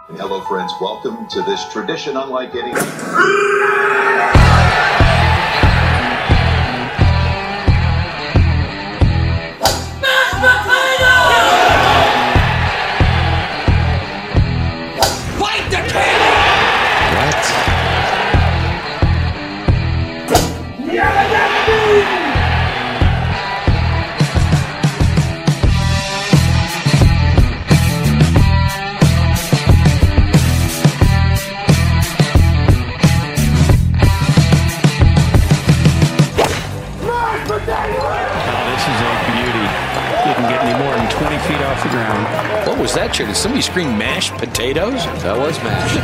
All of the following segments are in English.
Hello, friends. Welcome to this tradition unlike any. Fight the king! What? What was that, Chair? Did somebody scream mashed potatoes? That was mashed.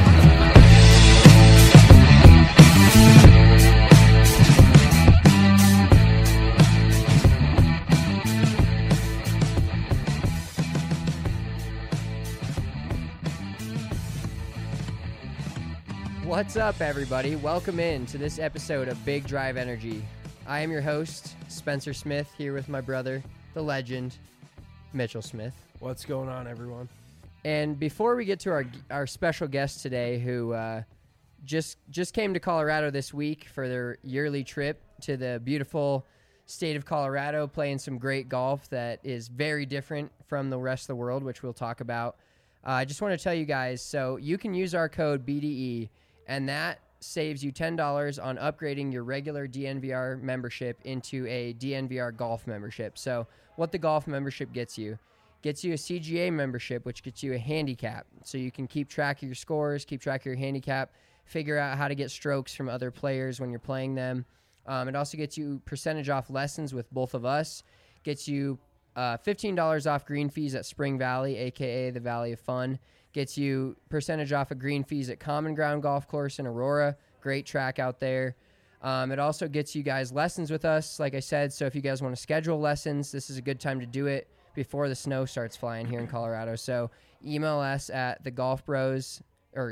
What's up, everybody? Welcome in to this episode of Big Drive Energy. I am your host, Spencer Smith, here with my brother, the legend, Mitchell Smith. What's going on, everyone? And before we get to our special guest today, who just came to Colorado this week for their yearly trip to the beautiful state of Colorado, playing some great golf that is very different from the rest of the world, which we'll talk about. I just want to tell you guys, so you can use our code BDE, and that saves you $10 on upgrading your regular DNVR membership into a DNVR golf membership. So what the golf membership gets you a CGA membership, which gets you a handicap. So you can keep track of your scores, keep track of your handicap, figure out how to get strokes from other players when you're playing them. It also gets you percentage off lessons with both of us, gets you $15 off green fees at Spring Valley, a.k.a. the Valley of Fun. Gets you percentage off of green fees at Common Ground Golf Course in Aurora. Great track out there. It also gets you guys lessons with us, like I said. So if you guys want to schedule lessons, this is a good time to do it before the snow starts flying here in Colorado. So email us at golfbros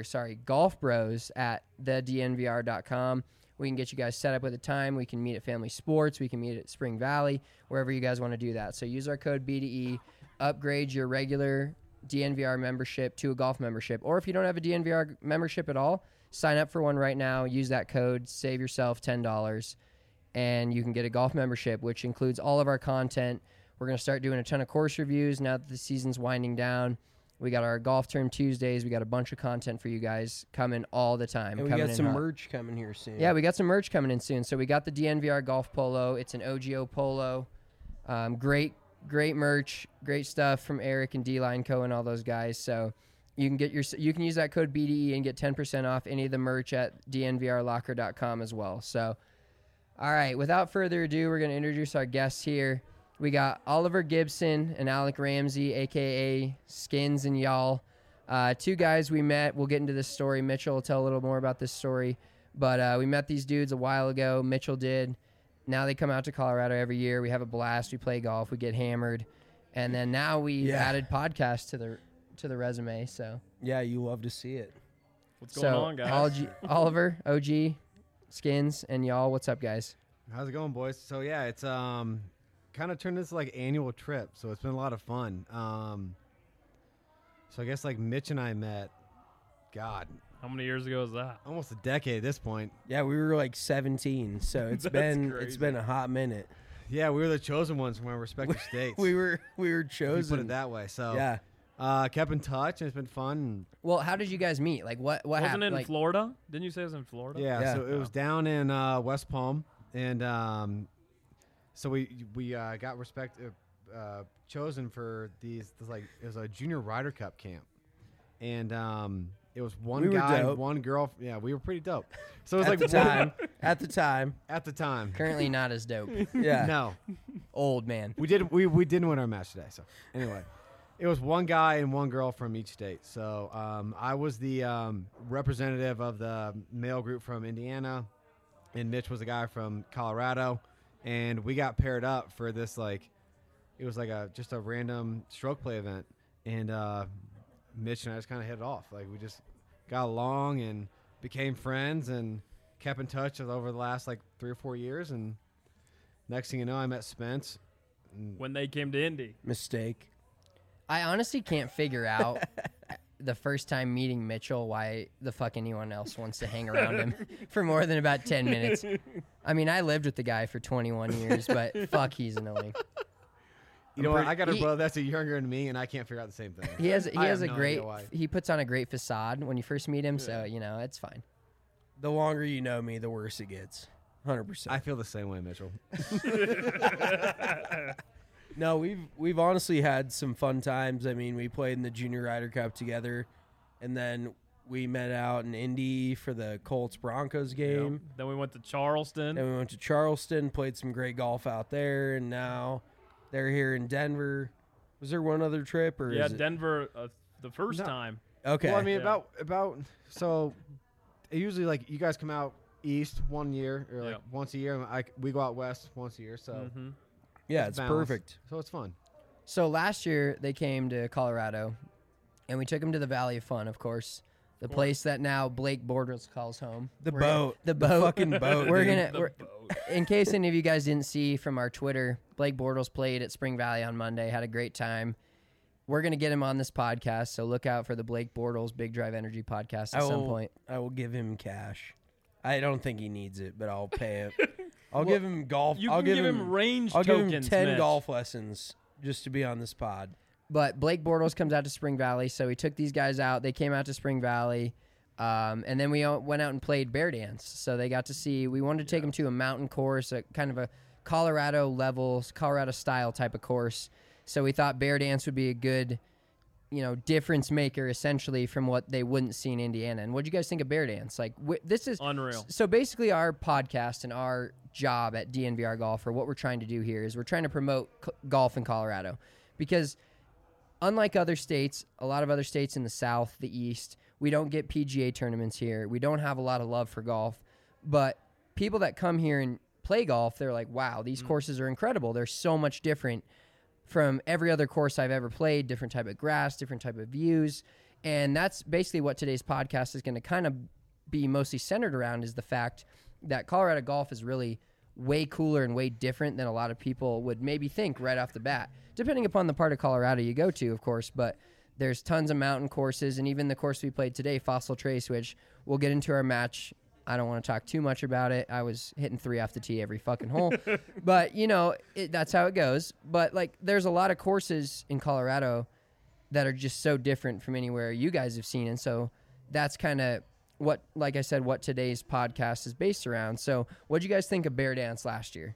at thednvr.com. We can get you guys set up with a time. We can meet at Family Sports. We can meet at Spring Valley, wherever you guys want to do that. So use our code BDE, upgrade your regular DNVR membership to a golf membership. Or if you don't have a DNVR membership at all, sign up for one right now. Use that code, save yourself $10, and you can get a golf membership, which includes all of our content. We're going to start doing a ton of course reviews now that the season's winding down. We got our Golf Term Tuesdays. We got a bunch of content for you guys coming all the time. And we got some merch coming here soon. Yeah, we got some merch coming in soon. So we got the DNVR Golf Polo. It's an OGO Polo. Great merch, great stuff from Eric and D-Line Co. and all those guys. So you can use that code BDE and get 10% off any of the merch at dnvrlocker.com as well. So, all right, without further ado, we're going to introduce our guests here. We got Oliver Gibson and Alec Ramsey, a.k.a. Skins and Y'all. Two guys we met. We'll get into this story. Mitchell will tell a little more about this story. But we met these dudes a while ago. Mitchell did. Now they come out to Colorado every year. We have a blast. We play golf. We get hammered. And then now we added podcasts to the resume. So yeah, you love to see it. What's going on, guys? Oliver, OG, Skins, and Y'all. What's up, guys? How's it going, boys? So yeah, it's kind of turned this like annual trip, so it's been a lot of fun. So I guess like Mitch and I met, God, how many years ago was that? almost a decade at this point. Yeah, we were like 17, so it's been a hot minute. Yeah, we were the chosen ones from our respective states. We were If chosen. you put it that way. So Yeah. kept in touch, and it's been fun. Well, how did you guys meet? Like, what Wasn't happened? it in Like, Florida? Didn't you say it was in Florida? Yeah, so it was down in West Palm, and so we got chosen for it was a junior Ryder Cup camp, and it was one guy, one girl. Yeah, we were pretty dope. So it was At the time. At the time. currently not as dope. Yeah. No, Old man. we didn't win our match today. So anyway, it was one guy and one girl from each state. So I was the representative of the male group from Indiana, and Mitch was the guy from Colorado, and we got paired up for this it was like just a random stroke play event, and Mitch and I just kind of hit it off. Like we just got along and became friends and kept in touch over the last 3 or 4 years, and next thing you know, I met Spence. When they came to Indy. Mistake. I honestly can't figure out the first time meeting Mitchell why the fuck anyone else wants to hang around him for more than about 10 minutes. I mean, I lived with the guy for 21 years, but fuck, he's annoying. You know what? I got a brother that's younger than me, and I can't figure out the same thing. He has a great. He puts on a great facade when you first meet him, so it's fine. The longer you know me, the worse it gets. 100%. I feel the same way, Mitchell. No, we've honestly had some fun times. I mean, we played in the Junior Ryder Cup together, and then we met out in Indy for the Colts-Broncos game. Yep. Then we went to Charleston. Played some great golf out there, and now they're here in Denver. Was there one other trip? Or Denver the first time. Okay. Well, I mean, about so usually, like, you guys come out east 1 year or like once a year. We go out west once a year. So it's perfect. So it's fun. So last year they came to Colorado, and we took them to the Valley of Fun, of course, the place that now Blake Bortles calls home. The boat. The fucking boat. We're in case any of you guys didn't see from our Twitter, Blake Bortles played at Spring Valley on Monday, had a great time. We're going to get him on this podcast, so look out for the Blake Bortles Big Drive Energy podcast at some point. I will give him cash. I don't think he needs it, but I'll pay it. I'll give him golf. I'll give him range I'll tokens, give him 10 Mitch. golf lessons just to be on this pod. But Blake Bortles comes out to Spring Valley, so we took these guys out. They came out to Spring Valley, and then we went out and played Bear Dance. So they got to see. We wanted to take them to a mountain course, a kind of a Colorado style type of course. So we thought Bear Dance would be a good, difference maker essentially from what they wouldn't see in Indiana. And what do you guys think of Bear Dance? Like, this is unreal. So basically, our podcast and our job at DNVR Golf, or what we're trying to do here, is we're trying to promote golf in Colorado, because unlike other states, a lot of other states in the South, the East, we don't get PGA tournaments here. We don't have a lot of love for golf, but people that come here and play golf, they're like, wow, these courses are incredible. They're so much different from every other course I've ever played, different type of grass, different type of views. And that's basically what today's podcast is going to kind of be mostly centered around, is the fact that Colorado golf is really way cooler and way different than a lot of people would maybe think right off the bat, depending upon the part of Colorado you go to, of course. But there's tons of mountain courses, and even the course we played today, Fossil Trace, which we'll get into our match. I don't want to talk too much about it. I was hitting 3 off the tee every fucking hole. But, that's how it goes. But, there's a lot of courses in Colorado that are just so different from anywhere you guys have seen. And so that's kind of what, like I said, what today's podcast is based around. So what did you guys think of Bear Dance last year?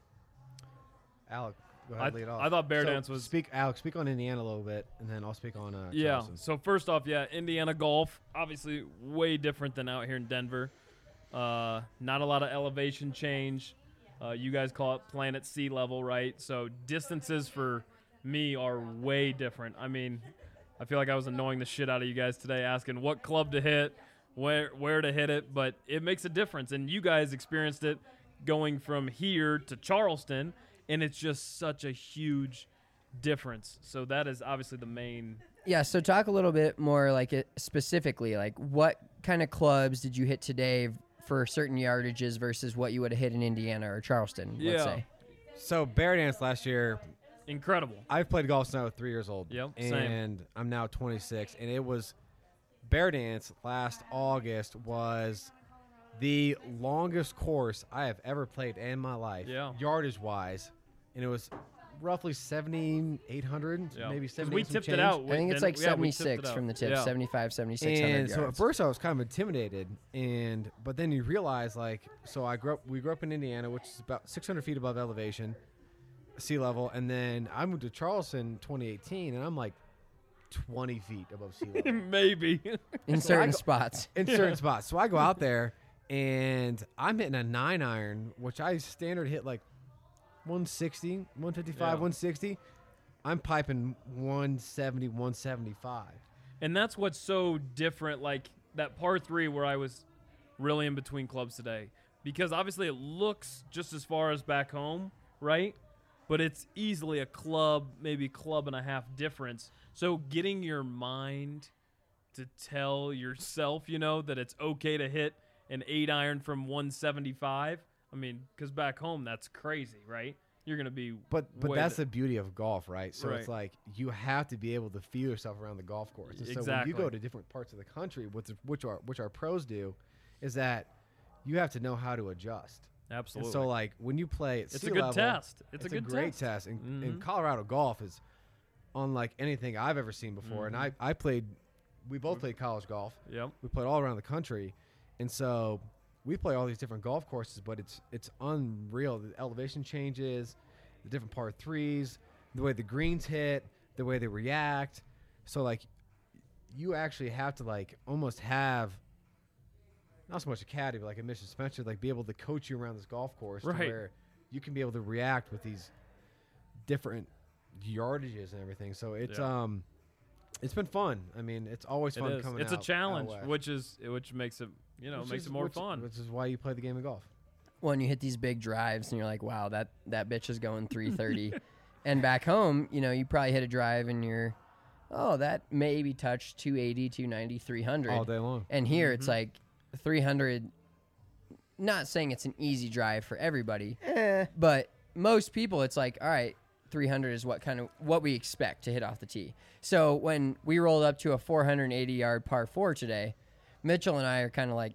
Alec, go ahead, lead off. I thought Bear Dance was... Alex, speak on Indiana a little bit, and then I'll speak on Charleston. So first off, Indiana golf, obviously way different than out here in Denver. Not a lot of elevation change. You guys call it playing at sea level, right? So distances for me are way different. I mean, I feel like I was annoying the shit out of you guys today, asking what club to hit, where to hit it, but it makes a difference. And you guys experienced it going from here to Charleston, and it's just such a huge difference. So that is obviously the main. Yeah, so talk a little bit more specifically, what kind of clubs did you hit today for certain yardages versus what you would have hit in Indiana or Charleston, let's say? So Bear Dance last year, incredible. I've played golf since I was 3 years old. Yep, and same. I'm now 26, and it was Bear Dance last August was the longest course I have ever played in my life, yardage wise, and it was roughly 7,800, maybe 7,800. We tipped it out. I think it's 76 from the tip, 75, 7,600 and yards. so at first I was kind of intimidated, but then you realize, so we grew up in Indiana, which is about 600 feet above elevation, sea level, and then I moved to Charleston 2018, and I'm 20 feet above sea level. Maybe. In certain spots. In certain spots. So I go out there, and I'm hitting a 9-iron, which I standard hit 160, 155, 160. I'm piping 170, 175. And that's what's so different, that par 3 where I was really in between clubs today. Because obviously it looks just as far as back home, right? But it's easily a club, maybe club and a half difference. So getting your mind to tell yourself, that it's okay to hit an 8-iron from 175. I mean, because back home, that's crazy, right? you're going to be But way that's the- the beauty of golf, right? So Right. it's like you have to be able to feel yourself around the golf course. And so when Exactly. you go to different parts of the country, which our pros do, is that you have to know how to adjust. Absolutely. And so like when you play at It's sea a good level, test. It's a good great test. test. And Mhm. Colorado golf is unlike anything I've ever seen before. Mm-hmm. And I played, we both played college golf. Yep. We played all around the country, and so we play all these different golf courses. But it's unreal. The elevation changes, the different par threes, the way the greens hit, the way they react. So like, you actually have to like almost have not so much a caddy, but like a Mission Spencer, like be able to coach you around this golf course to Right. where you can be able to react with these different yardages and everything. So it's Yeah. it's been fun. I mean, it's always It fun is. coming It's a out challenge, west. which makes it Which makes is- it more which- fun. Which is why you play the game of golf. When you hit these big drives and you're like, wow, that bitch is going 330. And back home, you probably hit a drive and you're, oh, that maybe touched 280, 290, 300. All day long. And here Mm-hmm. it's like 300. Not saying it's an easy drive for everybody, but most people it's like, all right, 300 is what we expect to hit off the tee. So when we rolled up to a 480-yard par 4 today, Mitchell and I are kind of like,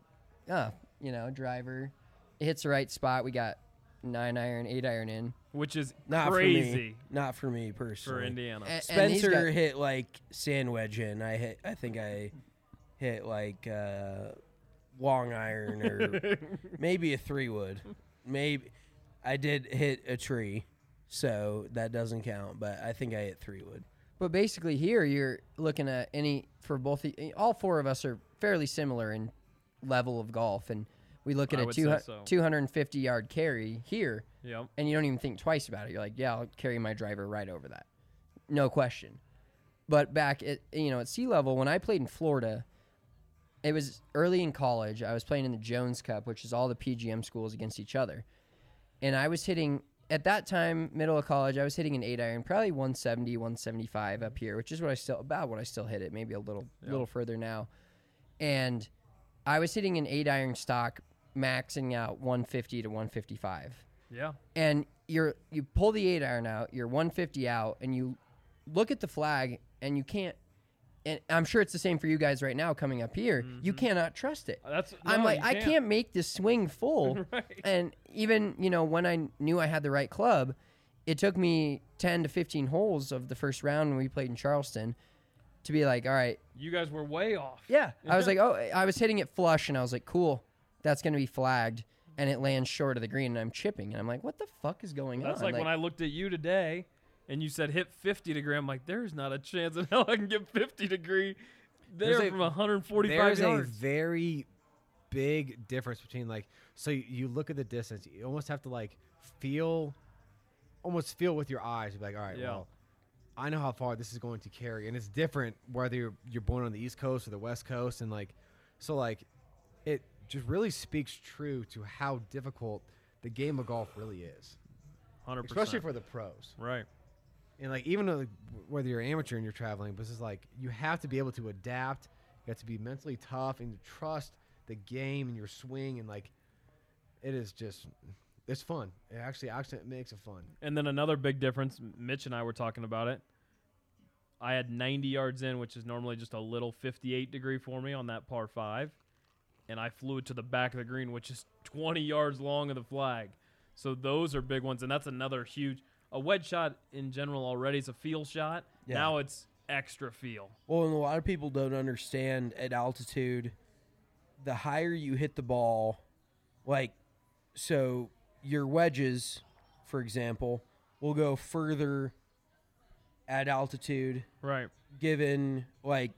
driver, it hits the right spot. We got 9-iron, 8-iron in. Which is Not for crazy me. Not for me personally. for Indiana. And he's Spencer got- hit like sand wedge in. I think I hit like long iron or maybe a 3-wood. Maybe I did hit a tree, so that doesn't count. But I think I hit 3-wood. But basically here you're looking at all four of us are fairly similar in level of golf, and we look at I a would say so. 250-yard carry here, Yep. and you don't even think twice about it. You're like, yeah, I'll carry my driver right over that. No question. But back at sea level, when I played in Florida, it was early in college. I was playing in the Jones Cup, which is all the PGM schools against each other. And I was hitting, at that time, middle of college, I was hitting an 8-iron, probably 170, 175 up here, which is what I still hit it, maybe a little further now. And I was hitting an 8-iron stock, maxing out 150 to 155. Yeah. And you pull the 8-iron out, you're 150 out, and you look at the flag, and you can't. And I'm sure it's the same for you guys right now coming up here. You cannot trust it. I'm like, I can't make this swing full. Right. And even when I knew I had the right club, it took me 10 to 15 holes of the first round when we played in Charleston to be like, all right, You guys were way off. yeah. I was like, I was hitting it flush, and I was like, cool, that's going to be flagged. And it lands short of the green, and I'm chipping. And I'm like, what the fuck is going on? That's like when I looked at you today and you said hit 50 degree. I'm like, there's not a chance in hell I can get 50 degree there There's from 145 There's yards. a very big difference between like, so you look at the distance, you almost have to like almost feel with your eyes. You're like, all right, Yeah. well, I know how far this is going to carry, and it's different whether you're born on the East Coast or the West Coast, and like, so like, it just really speaks true to how difficult the game of golf really is, 100%. especially for the pros. Right. And like, even though, whether you're amateur and you're traveling, but this is like, you have to be able to adapt. You have to be mentally tough and trust the game and your swing, and like, it is just, it's fun. It actually makes it fun. And then another big difference, Mitch and I were talking about it. I had 90 yards in, which is normally just a little 58 degree for me on that par 5. And I flew it to the back of the green, which is 20 yards long of the flag. So those are big ones. And that's another huge, a wedge shot in general already is a feel shot. Yeah. Now it's extra feel. Well, and a lot of people don't understand at altitude, the higher you hit the ball, like, so your wedges, for example, will go further at altitude, Right. given, like,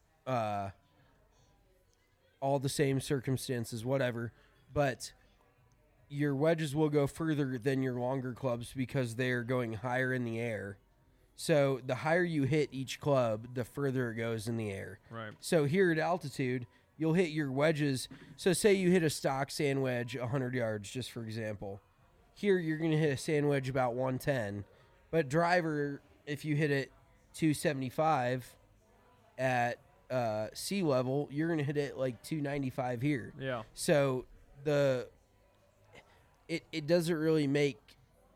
all the same circumstances, whatever. But your wedges will go further than your longer clubs because they're going higher in the air. So the higher you hit each club, the further it goes in the air. Right. So here at altitude, you'll hit your wedges. So say you hit a stock sand wedge 100 yards, just for example. Here you're going to hit a sand wedge about 110. But driver, if you hit it 275 at sea level, you're going to hit it like 295 here. Yeah. So it doesn't really make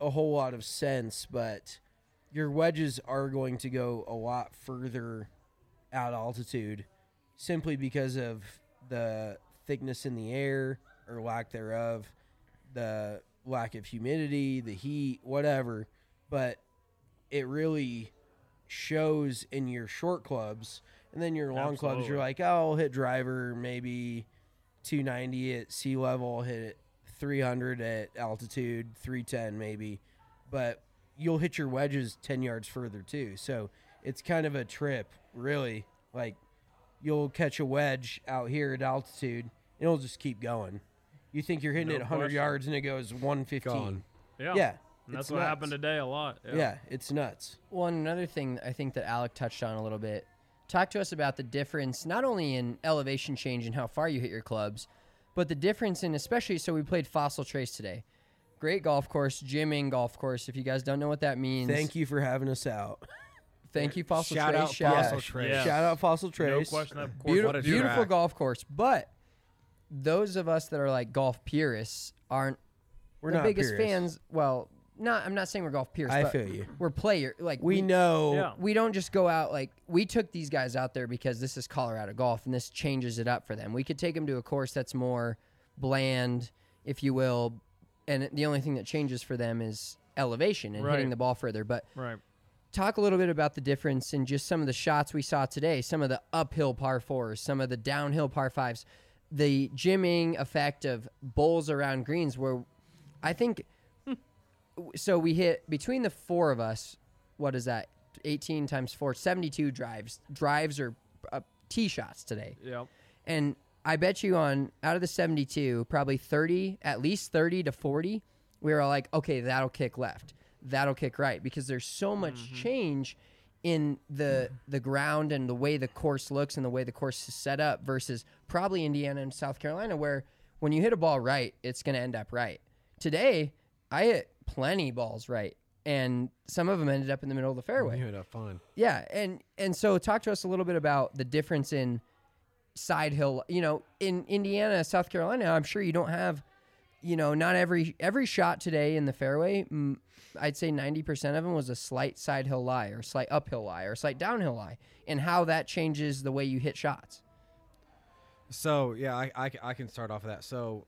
a whole lot of sense, but your wedges are going to go a lot further at altitude simply because of the thickness in the air or lack thereof, the lack of humidity, the heat, whatever. But it really shows in your short clubs, and then your long clubs, Absolutely. you're like, oh, I'll hit driver maybe 290 at sea level, hit it 300 at altitude, 310 maybe, but you'll hit your wedges 10 yards further too. So it's kind of a trip, really. Like, you'll catch a wedge out here at altitude, and it'll just keep going. You think you're hitting No it 100 question. yards, and it goes 115. Gone. Yeah. Yeah, And that's it's what nuts. happened today a lot. Yeah, it's nuts. Well, and another thing I think that Alec touched on a little bit. Talk to us about the difference, not only in elevation change and how far you hit your clubs, but the difference in, especially, so we played Fossil Trace today. Great golf course, gymming golf course. If you guys don't know what that means, Thank you for having us out. Thank you, Fossil Shout Trace. out Shout Fossil out. Trace. Yeah. Shout out Fossil No Trace. question. That course Beautiful, What a beautiful track. golf course, but those of us that are like golf purists aren't We're the not biggest purists. fans. Well, I'm not saying we're golf purists. I but feel you. We're player. Like We know. Yeah. we don't just go out like we took these guys out there because this is Colorado golf and this changes it up for them. We could take them to a course that's more bland, if you will, and the only thing that changes for them is elevation and hitting Right. the ball further. But Right. talk a little bit about the difference in just some of the shots we saw today, some of the uphill par fours, some of the downhill par fives, the gymming effect of bowls around greens where I think so we hit between the four of us, what is that? 18 times 4, 72 drives or tee shots today. Yeah. And I bet you on out of the 72, probably 30, at least 30 to 40, we were like, okay, that'll kick left. That'll kick right because there's so much change in the ground and the way the course looks and the way the course is set up versus probably Indiana and South Carolina where when you hit a ball right, it's going to end up right. Today, I hit plenty balls right and some of them ended up in the middle of the fairway. You had a fun. Yeah, and so talk to us a little bit about the difference in side hill. You know, in Indiana, South Carolina, I'm sure you don't have, you know, not every shot today in the fairway. I'd say 90% of them was a slight side hill lie or slight uphill lie or slight downhill lie, and how that changes the way you hit shots. So yeah, I can start off of that. So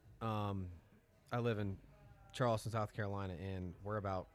I live in Charleston, South Carolina, and we're about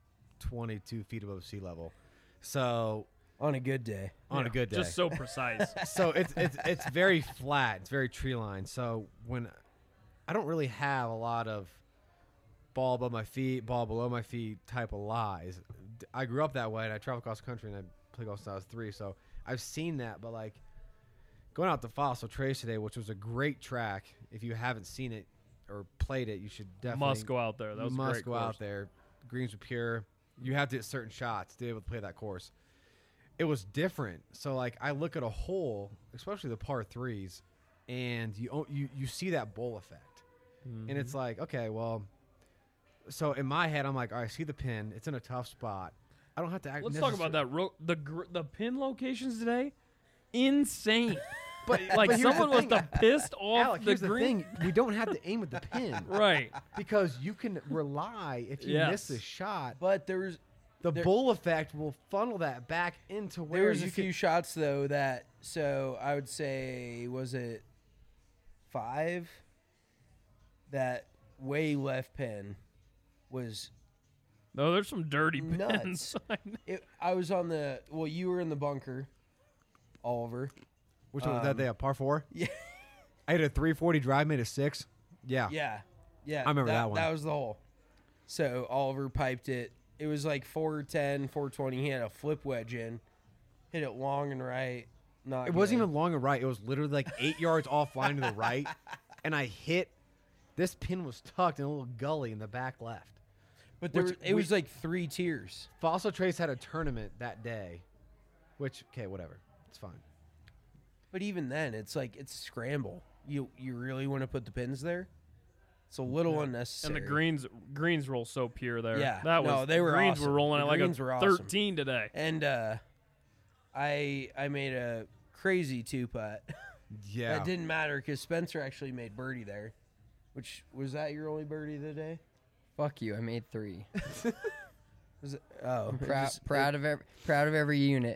22 feet above sea level. So On a good day. on a good day, Just so precise. so it's very flat. It's very tree lined. So when I don't really have a lot of ball above my feet, ball below my feet type of lies. I grew up that way, and I traveled across the country, and I played golf since I was 3. So I've seen that. But like going out to Fossil Trace today, which was a great track. If you haven't seen it or played it, you should definitely Must go out there. That was a must great go course. out there. Greens were pure. You have to hit certain shots to be able to play that course. It was different. So like I look at a hole, especially the par threes, and you see that bowl effect, and it's like, okay, well, so in my head I'm like, all right, I see the pin. It's in a tough spot. I don't have to act. Let's talk about that. The pin locations today, insane. But Like but here's someone the must thing. have pissed off Alec, the here's the green. thing: we don't have to aim at the pin, Right. because you can rely if you miss Yes. a shot. But there Bull effect will funnel that back into where was you a few shots though that, so I would say, was it 5? That way left pin was No, there's some dirty nuts. pins. I was on the, well, you were in the bunker, Oliver. Which one was that day? A par 4? Yeah. I had a 340 drive, made a 6. Yeah. Yeah. I remember that one. That was the hole. So Oliver piped it. It was like 410, 420. He had a flip wedge in, hit it long and right. Not It wasn't good. even long and right. It was literally like 8 yards offline to the right. And I hit, this pin was tucked in a little gully in the back left. But there which was, it was like 3 tiers. Fossil Trace had a tournament that day, which, okay, whatever. It's fine. But even then, it's like, it's a scramble. You really want to put the pins there? It's a little unnecessary. And the greens roll so pure there. Yeah. That No, was they were greens awesome. were rolling The at like greens a were awesome. 13 today. And I made a crazy 2-putt. Yeah. That didn't matter because Spencer actually made birdie there. Which, was that your only birdie of the day? Fuck you. I made 3. Oh, Proud of every unit.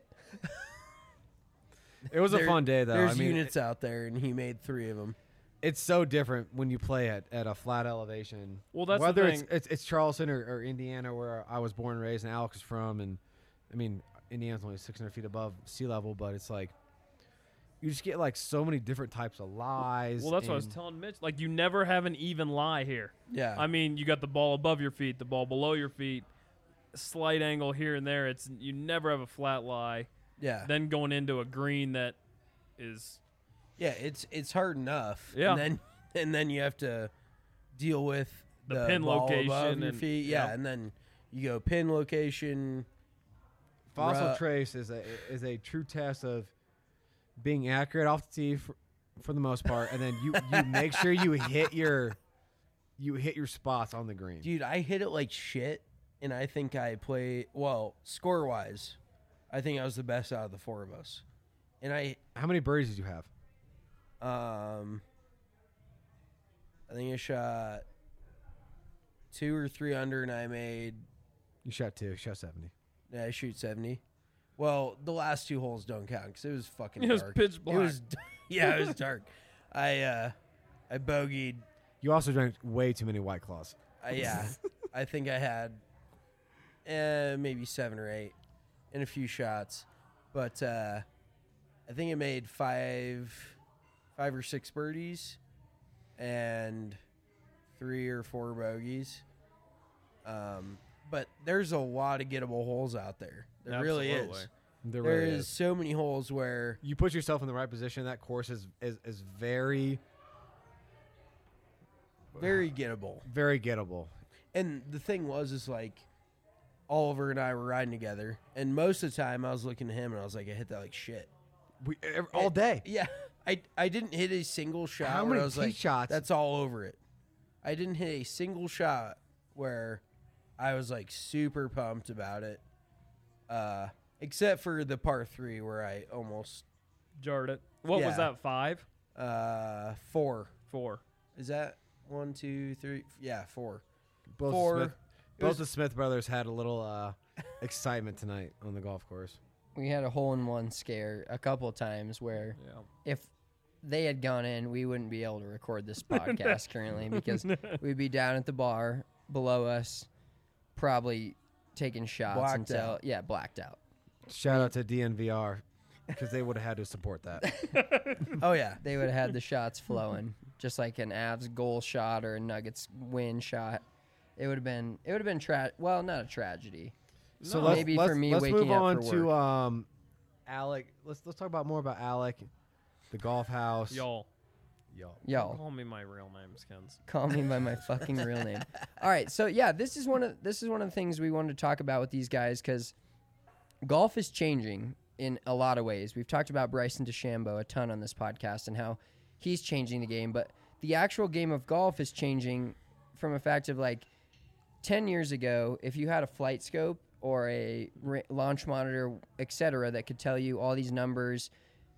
It was a fun day, though. There's I mean, units out there, and he made 3 of them. it's so different when you play at a flat elevation. Well, that's the whether thing. it's Charleston or Indiana, where I was born and raised, and Alex is from, and I mean Indiana's only 600 feet above sea level, but it's like you just get like so many different types of lies. Well, that's what I was and- telling Mitch. Like, you never have an even lie here. Yeah. I mean, you got the ball above your feet, the ball below your feet, slight angle here and there. You never have a flat lie. Yeah. Then going into a green that is Yeah, it's hard enough. Yeah. And then you have to deal with The pin ball location above your and- feet. Yeah, yep. and then you go pin location. Fossil Ru- trace is a true test of being accurate off the tee for the most part, and then you make sure you hit your spots on the green. Dude, I hit it like shit, and I think I play well score wise. I think I was the best out of the 4 of us, and How many birdies did you have? I think I shot 2 or 3 under, and I made. You shot 2. You shot 70. Yeah, I shoot 70. Well, the last 2 holes don't count because it was fucking It was dark. pitch black. It was, yeah, it was dark. I bogeyed. You also drank way too many White Claws. Yeah, I think I had maybe 7 or 8 in a few shots, but I think I made 5 or 6 birdies and 3 or 4 bogeys. But there's a lot of gettable holes out there. There really Absolutely. is. There There really is so many holes where You put yourself in the right position. That course is very, very gettable. very gettable. And the thing is like Oliver and I were riding together, and most of the time I was looking at him and I was like, I hit that like shit. All day. Yeah, I didn't hit a single shot. How where many I was tee like, shots? That's all over it. I didn't hit a single shot where I was like super pumped about it, except for the par 3 where I almost jarred it. What was Yeah. that? 5? 4. 4. Is that 1, 2, 3? Yeah, 4. Both 4. Smith, It was- both the Smith brothers had a little excitement tonight on the golf course. We had a hole-in-one scare a couple of times where Yeah. if they had gone in, we wouldn't be able to record this podcast currently because we'd be down at the bar below us, probably taking shots Blacked until out. blacked out. Shout out to DNVR because they would have had to support that. Oh yeah. They would have had the shots flowing, just like an Avs goal shot or a Nuggets win shot. It would have been well, not a tragedy. So No. Maybe for me let's waking move up on for to Alec. Let's talk about more about Alec, the golf house. Y'all. Yo, Call me my real name, Skins. call me by my fucking real name. All right, so yeah, this is one of the things we wanted to talk about with these guys because golf is changing in a lot of ways. We've talked about Bryson DeChambeau a ton on this podcast and how he's changing the game, but the actual game of golf is changing from a fact of like 10 years ago, if you had a flight scope or a launch monitor, etc., that could tell you all these numbers,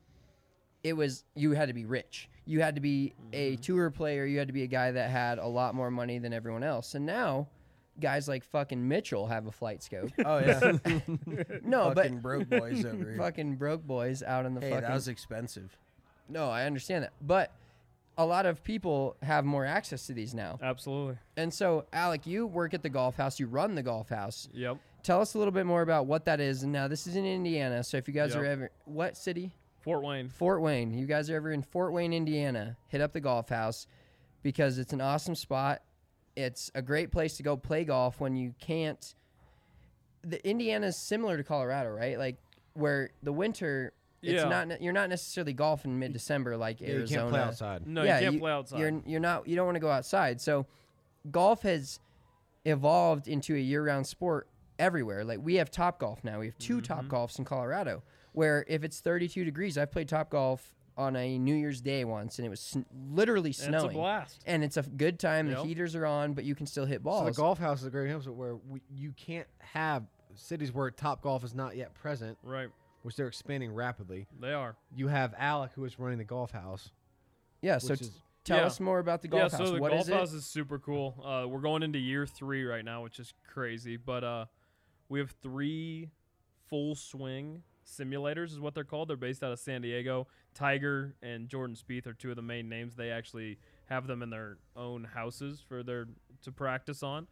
you had to be rich. You had to be a tour player. You had to be a guy that had a lot more money than everyone else. And now, guys like fucking Mitchell have a flight scope. Oh yeah. No, Fucking broke boys over but here. fucking broke boys out in the Hey, fucking. that was expensive. No, I understand that, but a lot of people have more access to these now. Absolutely. And so, Alec, you work at the golf house. You run the golf house. Yep. Tell us a little bit more about what that is. And now this is in Indiana. So if you guys Yep. are ever, what city? Fort Wayne. Fort Wayne. You guys are ever in Fort Wayne, Indiana, hit up the golf house because it's an awesome spot. It's a great place to go play golf when you can't. The Indiana is similar to Colorado, right? Like where the winter, it's Yeah. not you're not necessarily golfing mid-December like Yeah, you Arizona. can't play outside. No, Yeah, you can't play outside. You're not. You don't want to go outside. So golf has evolved into a year-round sport everywhere. Like we have Top Golf now. We have 2 Top Golfs in Colorado. Where if it's 32 degrees, I've played Top Golf on a New Year's Day once, and it was literally And it's a snowing. blast. And it's a good time. Yep. The heaters are on, but you can still hit So balls. the golf house is a great example where you can't have cities where Top Golf is not yet present, Right. which they're expanding rapidly. They are. You have Alec, who is running the golf house. yeah. So which is- Tell us more about the golf yeah, house. So the What golf is it? house is super cool. We're going into year 3 right now, which is crazy. But we have 3 full swing simulators is what they're called. They're based out of San Diego. Tiger and Jordan Spieth are 2 of the main names. They actually have them in their own houses to practice on.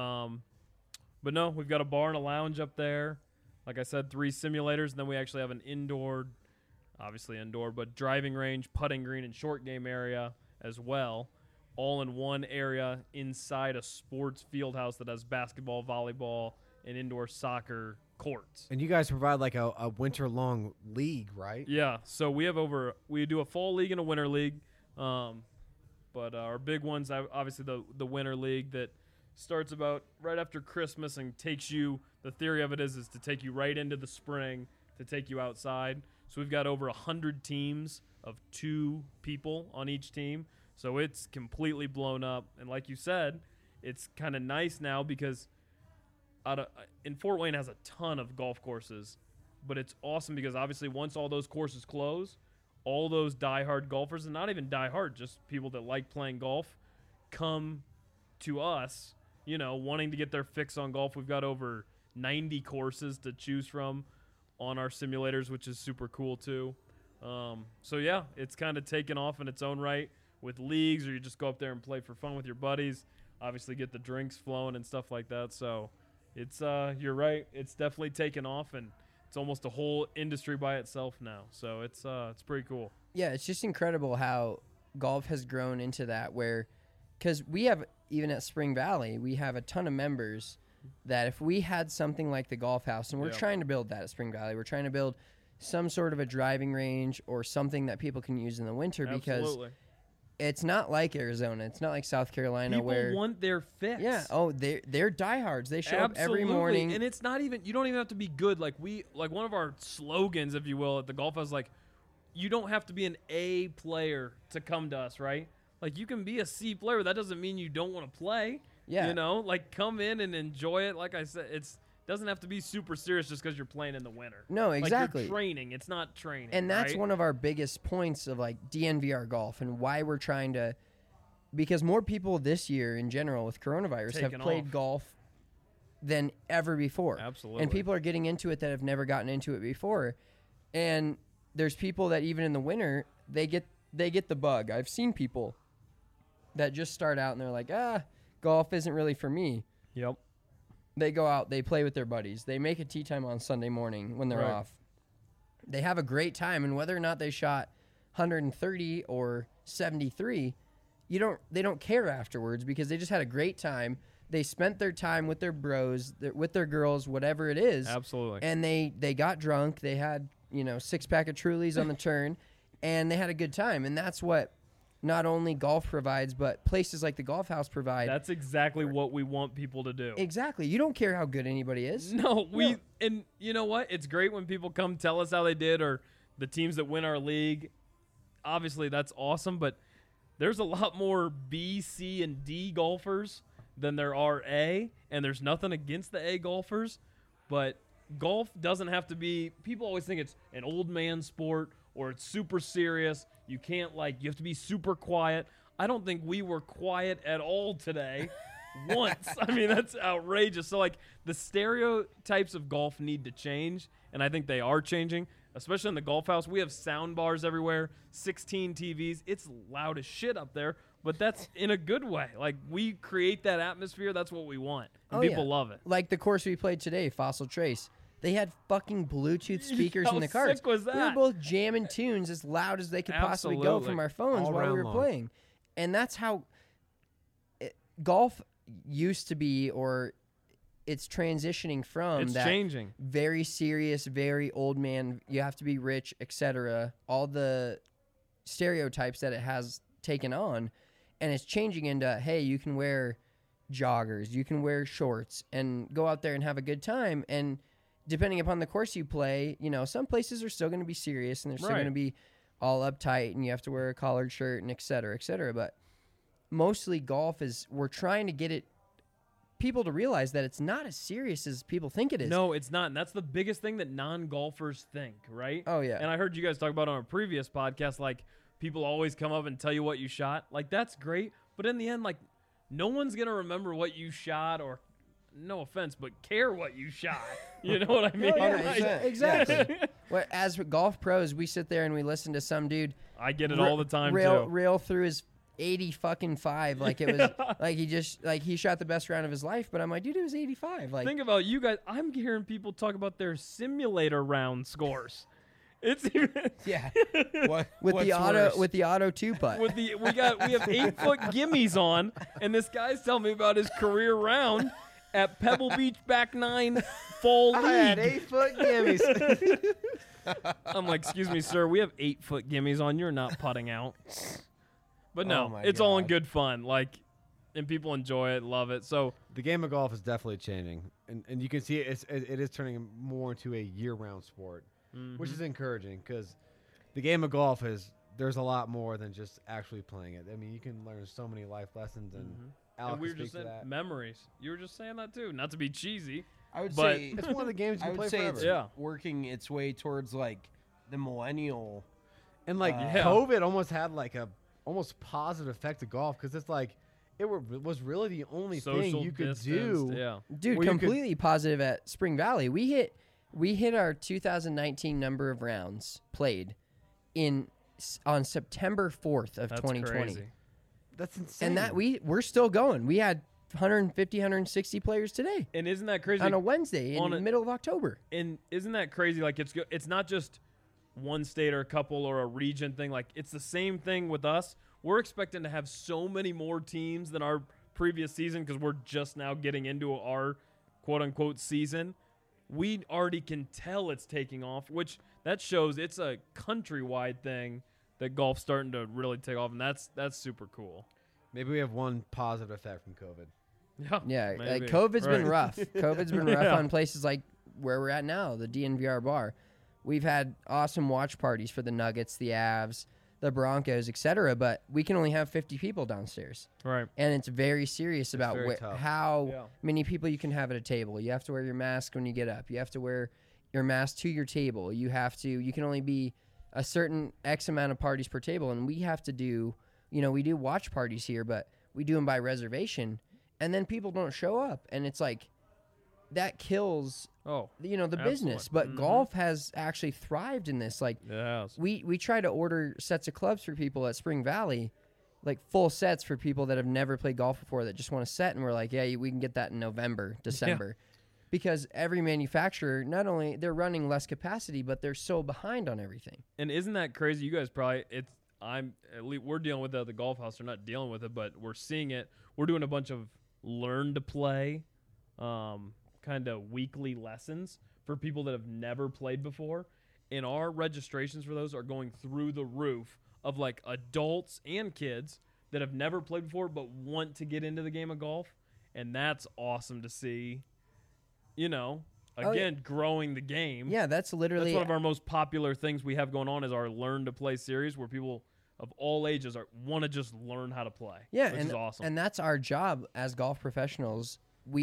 But no, we've got a bar and a lounge up there. Like I said, 3 simulators, and then we actually have an obviously indoor, but driving range, putting green, and short game area as well, all in one area inside a sports field house that has basketball, volleyball, and indoor soccer courts. And you guys provide like a winter-long league, right? Yeah, so we do a fall league and a winter league, but our big ones, obviously the winter league that starts about right after Christmas and the theory of it is to take you right into the spring, to take you outside. So we've got over 100 teams of 2 people on each team. So it's completely blown up. And like you said, it's kind of nice now because in Fort Wayne has a ton of golf courses, but it's awesome because obviously once all those courses close, all those diehard golfers, and not even diehard, just people that like playing golf, come to us, wanting to get their fix on golf. We've got over 90 courses to choose from on our simulators, which is super cool too. So yeah, it's kind of taken off in its own right with leagues, or you just go up there and play for fun with your buddies, obviously get the drinks flowing and stuff like that. So it's you're right, it's definitely taken off, and it's almost a whole industry by itself now. So it's pretty cool. Yeah, it's just incredible how golf has grown into that, where because we have, even at Spring Valley, we have a ton of members that if we had something like the golf house, and we're trying to build that at Spring Valley, we're trying to build some sort of a driving range or something that people can use in the winter. Because it's not like Arizona. It's not like South Carolina people where want their fix. Yeah. Oh, they're diehards. They show up every morning. And it's not even, you don't even have to be good. Like one of our slogans, if you will, at the golf house, like, you don't have to be an A player to come to us, right? Like, you can be a C player. That doesn't mean you don't want to play. Yeah. Like, come in and enjoy it. Like I said, doesn't have to be super serious just because you're playing in the winter. No, exactly. Like, you're training. It's not training. And that's right? one of our biggest points of like DNVR golf and why we're trying to, because more people this year in general with coronavirus have played golf than ever before. Absolutely. And people are getting into it that have never gotten into it before. And there's people that even in the winter, they get the bug. I've seen people that just start out and they're like, golf isn't really for me. Yep. They go out, they play with their buddies. They make a tee time on Sunday morning when they're off. They have a great time, and whether or not they shot 130 or 73, they don't care afterwards because they just had a great time. They spent their time with their bros, with their girls, whatever it is. Absolutely. And they got drunk. They had, 6-pack of Trulies on the turn, and they had a good time. And that's what not only golf provides, but places like the golf house provide. That's exactly what we want people to do. Exactly. You don't care how good anybody is. No, and you know what? It's great when people come tell us how they did, or the teams that win our league. Obviously, that's awesome, but there's a lot more B, C, and D golfers than there are A, and there's nothing against the A golfers, but golf doesn't have to be, people always think it's an old man sport or it's super serious. You can't, you have to be super quiet. I don't think we were quiet at all today once. I mean, that's outrageous. So, the stereotypes of golf need to change, and I think they are changing, especially in the golf house. We have sound bars everywhere, 16 TVs. It's loud as shit up there, but that's in a good way. We create that atmosphere. That's what we want, and people love it. Like the course we played today, Fossil Trace. They had fucking Bluetooth speakers in the carts. How sick was that? We were both jamming tunes as loud as they could possibly go from our phones while we were playing. And that's how golf used to be, or it's transitioning from it's that changing. Very serious, very old man, you have to be rich, etc. All the stereotypes that it has taken on. And it's changing into, hey, you can wear joggers, you can wear shorts, and go out there and have a good time. And depending upon the course you play, some places are still going to be serious and they're still going to be all uptight and you have to wear a collared shirt and et cetera, et cetera. But mostly golf we're trying to get people to realize that it's not as serious as people think it is. No, it's not. And that's the biggest thing that non-golfers think, right? Oh, yeah. And I heard you guys talk about on a previous podcast, people always come up and tell you what you shot. Like, that's great. But in the end, like, no one's going to remember what you shot or, no offense, but care what you shot. You know what I mean? Exactly. Well, as golf pros, we sit there and we listen to some dude. I get it all the time, rail through his 80-5 like it was like he shot the best round of his life. But I'm like, dude, it was 85. Like, think about you guys. I'm hearing people talk about their simulator round scores. It's even with the auto 2-putt. we have 8-foot gimmies on, and this guy's telling me about his career round at Pebble Beach back 9 fall league. I had 8-foot gimmies. I'm like, excuse me, sir, we have 8-foot gimmies on. You're not putting out. But no, it's all in good fun. Like, and people enjoy it, love it. So The game of golf is definitely changing, and you can see it is turning more into a year-round sport, which is encouraging because the game of golf there's a lot more than just actually playing it. I mean, you can learn so many life lessons, and Alex we were can just speak to saying that. memories. You were just saying that too. Not to be cheesy. I would But- say It's one of the games you I can would play say forever. it's working its way towards like the millennial. And like COVID almost had like a almost positive effect to golf because it's like it was really the only thing Social you could distance, do. Yeah. Dude, Well, you could- completely positive at Spring Valley. We hit our 2019 number of rounds played on September 4th of That's 2020. crazy. That's insane. And that we're still going. We had 150, 160 players today And isn't that crazy? on a Wednesday in the middle of October. And isn't that crazy? Like, it's not just one state or a couple or a region thing. Like, it's the same thing with us. We're expecting to have so many more teams than our previous season because we're just now getting into our quote-unquote season. We already can tell it's taking off, which that shows it's a countrywide thing that golf's starting to really take off, and that's super cool. Maybe we have one positive effect from COVID. Yeah, maybe. COVID's been Right. rough. COVID's been rough Yeah. on places like where we're at now, the DNVR bar. We've had awesome watch parties for the Nuggets, the Avs, the Broncos, etc. But we can only have 50 people downstairs, Right. and it's very serious about very tough. how Yeah. many people you can have at a table. You have to wear your mask when you get up. You have to wear your mask to your table. You can only be a certain X amount of parties per table, and we have to do. We do watch parties here, but we do them by reservation, and then people don't show up, and it's like that kills Oh, the business. absolutely. But golf has actually thrived in this. Like yes. we try to order sets of clubs for people at Spring Valley, like full sets for people that have never played golf before that just want to set, and we're like, yeah, we can get that in November, December. Because every manufacturer, not only they're running less capacity, but they're so behind on everything. And isn't that crazy? You guys probably we're dealing with it at the golf house. They're not dealing with it, but we're seeing it. We're doing a bunch of learn to play, kind of weekly lessons for people that have never played before. And our registrations for those are going through the roof of like adults and kids that have never played before but want to get into the game of golf. And that's awesome to see. Again, growing the game. Yeah, that's literally That's one of our most popular things we have going on is our Learn to Play series where people of all ages want to just learn how to play. Yeah, which is awesome. And that's our job as golf professionals.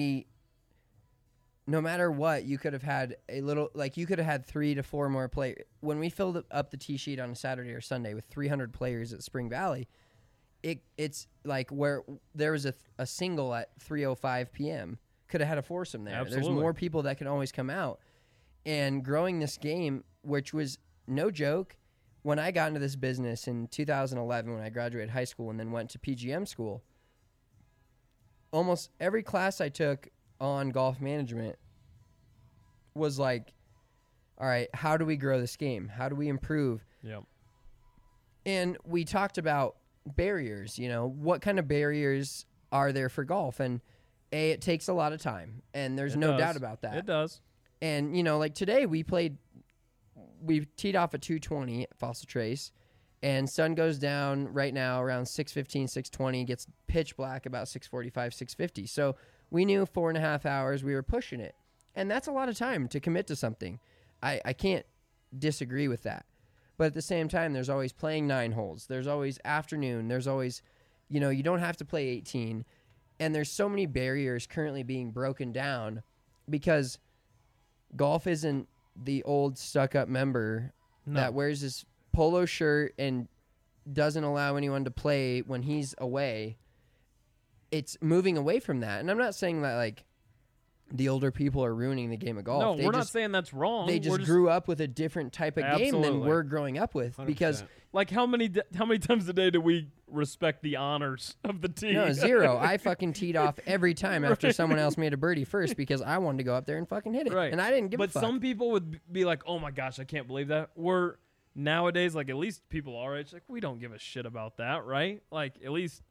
No matter what, you could have had you could have had 3 to 4 more players. When we filled up the tee sheet on a Saturday or Sunday with 300 players at Spring Valley, it's like where there was a single at 3:05 p.m. Could have had a foursome there. Absolutely. There's more people that can always come out. And growing this game, which was no joke, when I got into this business in 2011 when I graduated high school and then went to PGM school, almost every class I took on golf management was like, all right, how do we grow this game? How do we improve? Yep. And we talked about barriers, what kind of barriers are there for golf? And it takes a lot of time, and there's no doubt about that. It does. And, like today we teed off at 2:20 at Fossil Trace, and sun goes down right now around 6:15, 6:20, gets pitch black about 6:45, 6:50. So we knew 4.5 hours we were pushing it. And that's a lot of time to commit to something. I can't disagree with that. But at the same time, there's always playing 9 holes. There's always afternoon. There's always, you don't have to play 18. And there's so many barriers currently being broken down because golf isn't the old stuck-up member that wears his polo shirt and doesn't allow anyone to play when he's away, it's moving away from that. And I'm not saying that like the older people are ruining the game of golf. No, They we're not just- saying that's wrong. They We're just grew up with a different type of game than Absolutely. we're growing up with. Because 100%. Like how many times a day do we respect the honors of the team? no, 0. I fucking teed off every time after someone else made a birdie first because I wanted to go up there and fucking hit it. Right. And I didn't give a But fuck. some people would be like, "Oh my gosh, I can't believe that." We're nowadays, like at least people our age, like we don't give a shit about that, right? Like at least,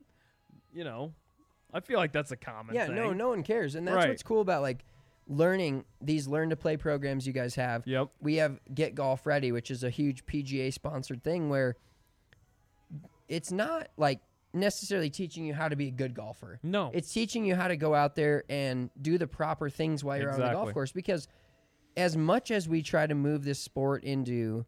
I feel like that's a common Yeah, thing. no one cares. And that's Right. what's cool about like learning these learn to play programs you guys have. Yep. We have Get Golf Ready, which is a huge PGA sponsored thing where it's not like necessarily teaching you how to be a good golfer. No. It's teaching you how to go out there and do the proper things while you're on the golf Exactly. course, because as much as we try to move this sport into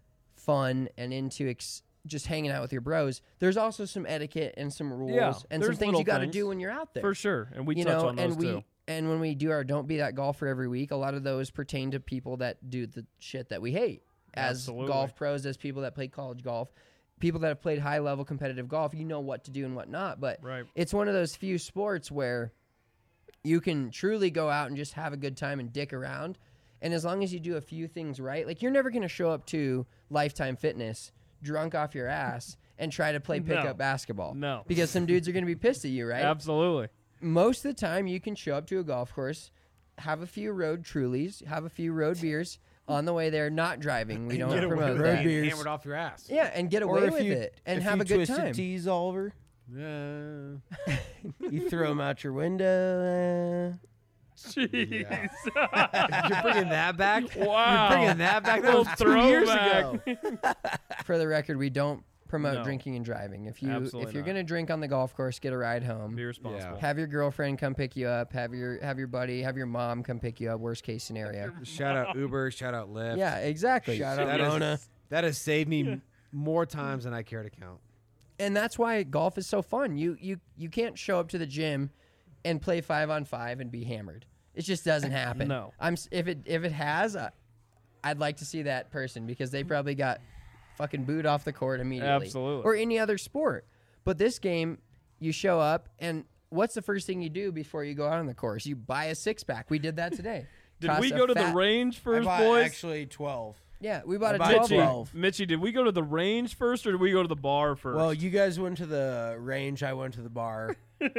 fun and into just hanging out with your bros, there's also some etiquette and some rules Yeah, and some there's things little you got to things. do when you're out there. For sure, and we You touch know, on those and we too. and when we do our Don't Be That Golfer every week, a lot of those pertain to people that do the shit that we hate as Absolutely. golf pros, as people that play college golf, people that have played high level competitive golf. You know what to do and what not, but Right. it's one of those few sports where you can truly go out and just have a good time and dick around. And as long as you do a few things right, like you're never going to show up to Lifetime Fitness drunk off your ass and try to play pickup basketball. No. Because some dudes are going to be pissed at you, right? Absolutely. Most of the time you can show up to a golf course, have a few road Trulies, have a few road beers on the way there, not driving. We don't Get away promote with that. it. beers. Hammered off your ass. Yeah, and get Or away if with you- it and if have you a good twisted time. tees, Oliver, Yeah. you throw them out your window. Jeez. You're bringing that back? Wow. You're bringing that back? That Little was 2 years throwback. ago. For the record, we don't promote No. drinking and driving. If Absolutely you're not. going to drink on the golf course, get a ride home. Be responsible. Have your girlfriend come pick you up. Have your buddy, have your mom come pick you up. Worst case scenario. Shout out Uber. Shout out Lyft. Yeah, exactly. Shout out That is- Mona. That has saved me more times than I care to count. And that's why golf is so fun. You can't show up to the gym and play 5-on-5 and be hammered. It just doesn't happen. No. If it has, I'd like to see that person because they probably got fucking booed off the court immediately. Absolutely. Or any other sport. But this game, you show up and what's the first thing you do before you go out on the course? You buy a 6-pack. We did that today. Did Costs we a go to the fat- range I first, bought boys? actually 12. Yeah, we bought I a bought 12 Mitchie, 12. Mitchie, did we go to the range first or did we go to the bar first? Well, you guys went to the range. I went to the bar.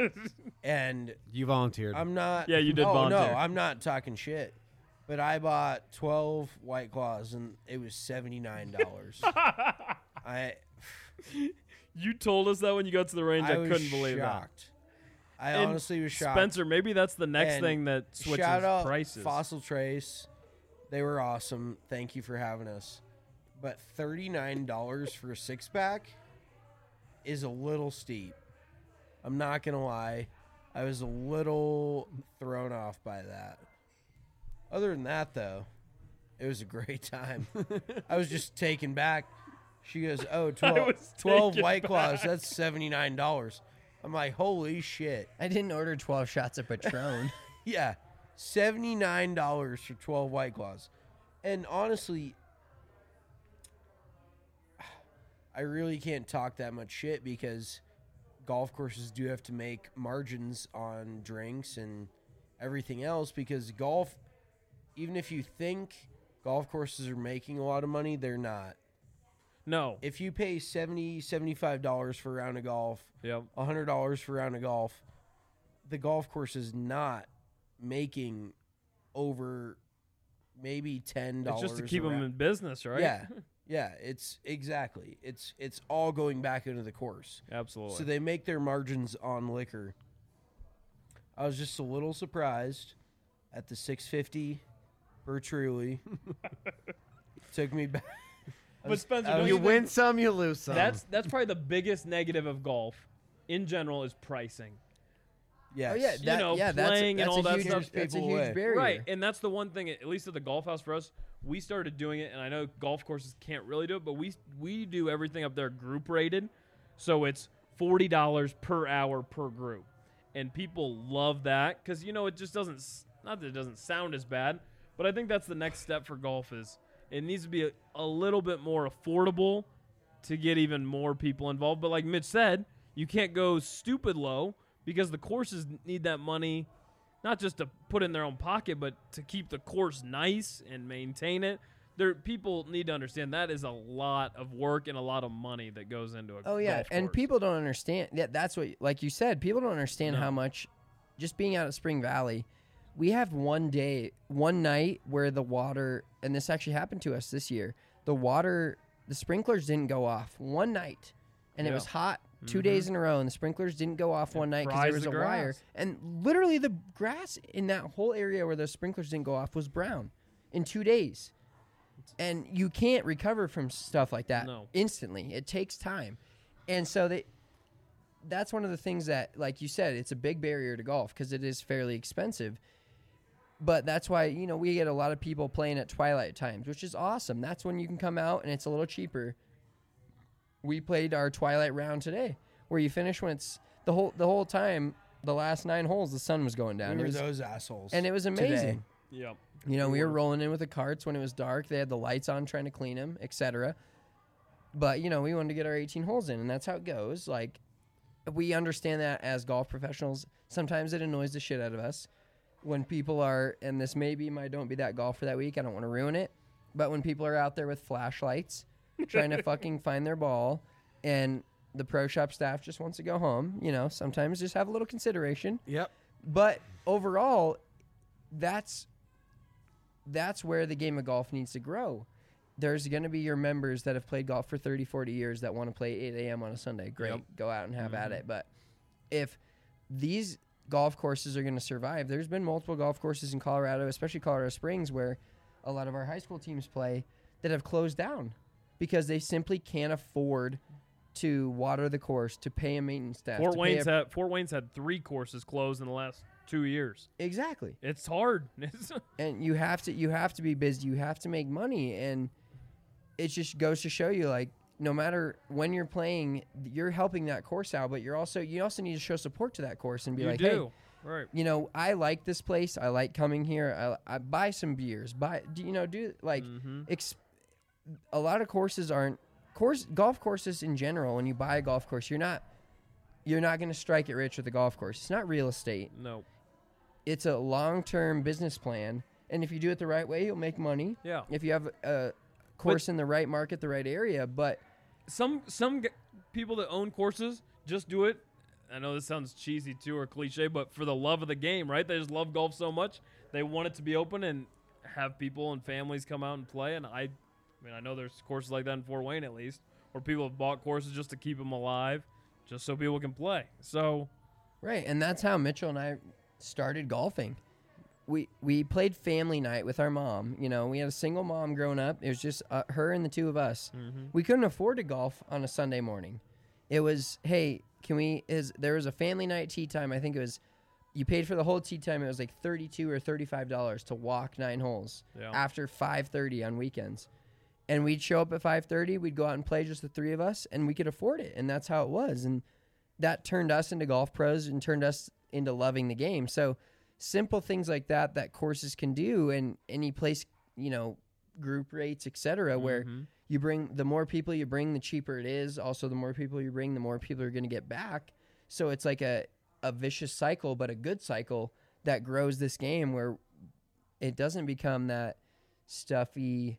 And You volunteered. I'm not. Yeah, you did Oh, volunteer. no, I'm not talking shit. But I bought 12 White Claws, and it was $79. you told us that when you got to the range. I was couldn't believe shocked. I that. And honestly was shocked. Spencer, maybe that's the next And thing that switches shout out prices. Fossil Trace. They were awesome. Thank you for having us. But $39 for a 6-pack is a little steep. I'm not going to lie. I was a little thrown off by that. Other than that, though, it was a great time. I was just taken back. She goes, oh, 12 was 12 taken White Claws, back. that's $79. I'm like, holy shit. I didn't order 12 shots of Patron. Yeah, $79 for 12 White Claws. And honestly, I really can't talk that much shit because golf courses do have to make margins on drinks and everything else because golf, even if you think golf courses are making a lot of money, they're not. No. If you pay $70, $75 for a round of golf, Yep. $100 for a round of golf, the golf course is not making over maybe $10. It's just to keep a them round. in business, right? Yeah, it's exactly. It's all going back into the course. Absolutely. So they make their margins on liquor. I was just a little surprised at the $6.50 per Truly. Took me back. but Spencer, I don't was- you you win think some, you lose some. that's probably the biggest negative of golf in general is pricing. Yes. Oh yeah, that, know, yeah, that's, playing and that's all a that huge, stuff. That's a People huge away. barrier. Right, and that's the one thing, at least at the golf house for us, we started doing it, and I know golf courses can't really do it, but we do everything up there group rated, so it's $40 per hour per group, and people love that because it just doesn't, not that it doesn't sound as bad, but I think that's the next step for golf is it needs to be a little bit more affordable to get even more people involved. But like Mitch said, you can't go stupid low because the courses need that money, not just to put in their own pocket, but to keep the course nice and maintain it. People need to understand that is a lot of work and a lot of money that goes into a Oh yeah, golf and course. people don't understand. Yeah, that's what, like you said, people don't understand No. how much. Just being out at Spring Valley, we have one night where the water, and this actually happened to us this year. The sprinklers didn't go off one night, and it Yeah. was hot 2 days in a row, and the sprinklers didn't go off one night because there fries was the a wire, grass. and literally the grass in that whole area where the sprinklers didn't go off was brown in 2 days. And you can't recover from stuff like that No. instantly. It takes time. And so that's one of the things that, like you said, it's a big barrier to golf because it is fairly expensive. But that's why, we get a lot of people playing at twilight times, which is awesome. That's when you can come out and it's a little cheaper. We played our twilight round today where you finish when it's the whole time, the last 9 holes, the sun was going down. We It were was, those assholes. and it was amazing. Yep. We were rolling in with the carts when it was dark. They had the lights on trying to clean them, etc. But, we wanted to get our 18 holes in, and that's how it goes. Like, we understand that as golf professionals. Sometimes it annoys the shit out of us when people are, and this may be my don't be that golfer that week. I don't want to ruin it. But when people are out there with flashlights trying to fucking find their ball, and the pro shop staff just wants to go home, sometimes just have a little consideration. Yep. But overall, that's where the game of golf needs to grow. There's going to be your members that have played golf for 30, 40 years that want to play 8 a.m. on a Sunday. Great. Yep. Go out and have at it. But if these golf courses are going to survive, there's been multiple golf courses in Colorado, especially Colorado Springs, where a lot of our high school teams play, that have closed down because they simply can't afford to water the course, to pay a maintenance staff. Fort Wayne's had 3 courses closed in the last 2 years. Exactly. It's hard. And you have to be busy. You have to make money, and it just goes to show you, like, no matter when you're playing, you're helping that course out, but you also need to show support to that course and be You like, do. Right. hey, I like this place. I like coming here. I buy some beers. A lot of courses aren't golf courses in general. When you buy a golf course, you're not going to strike it rich with a golf course. It's not real estate. No. It's a long-term business plan, and if you do it the right way, you'll make money. Yeah. If you have a course in the right market, the right area, but Some people that own courses just do it. I know this sounds cheesy too or cliche, but for the love of the game, right? They just love golf so much. They want it to be open and have people and families come out and play. And I know there's courses like that in Fort Wayne at least, where people have bought courses just to keep them alive, just so people can play. So, right, and that's how Mitchell and I started golfing. We played family night with our mom. We had a single mom growing up. It was just her and the two of us. We couldn't afford to golf on a Sunday morning. It was, hey, there was a family night tee time. I think it was, you paid for the whole tee time. It was like $32 or $35 to walk 9 holes after 5:30 on weekends. And we'd show up at 5:30. We'd go out and play, just the 3 of us, and we could afford it. And that's how it was. And that turned us into golf pros and turned us into loving the game. So simple things like that courses can do, and any place, group rates, etc., where you bring, the more people you bring, the cheaper it is. Also, the more people you bring, the more people are going to get back. So it's like a vicious cycle, but a good cycle that grows this game, where it doesn't become that stuffy,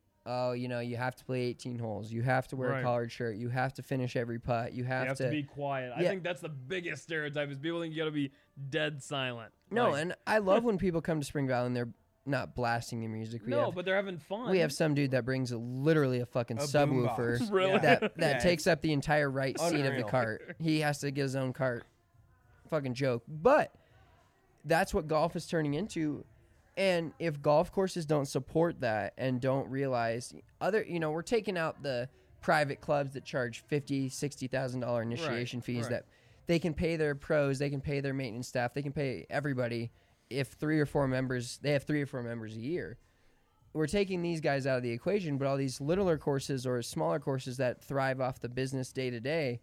you have to play 18 holes. You have to wear a collared shirt. You have to finish every putt. You have to be quiet. I think that's the biggest stereotype is people think you got to be dead silent. No, and I love when people come to Spring Valley and they're not blasting the music. But they're having fun. We have some dude that brings literally a fucking subwoofer boombox. Really? that takes up the entire right seat of the Unreal. cart. He has to get his own cart. Fucking joke. But that's what golf is turning into. And if golf courses don't support that and don't realize we're taking out the private clubs that charge $50,000, $60,000 initiation fees that they can pay their pros, they can pay their maintenance staff, they can pay everybody. If 3 or 4 members, they have 3 or 4 members a year. We're taking these guys out of the equation, but all these littler courses or smaller courses that thrive off the business day to day,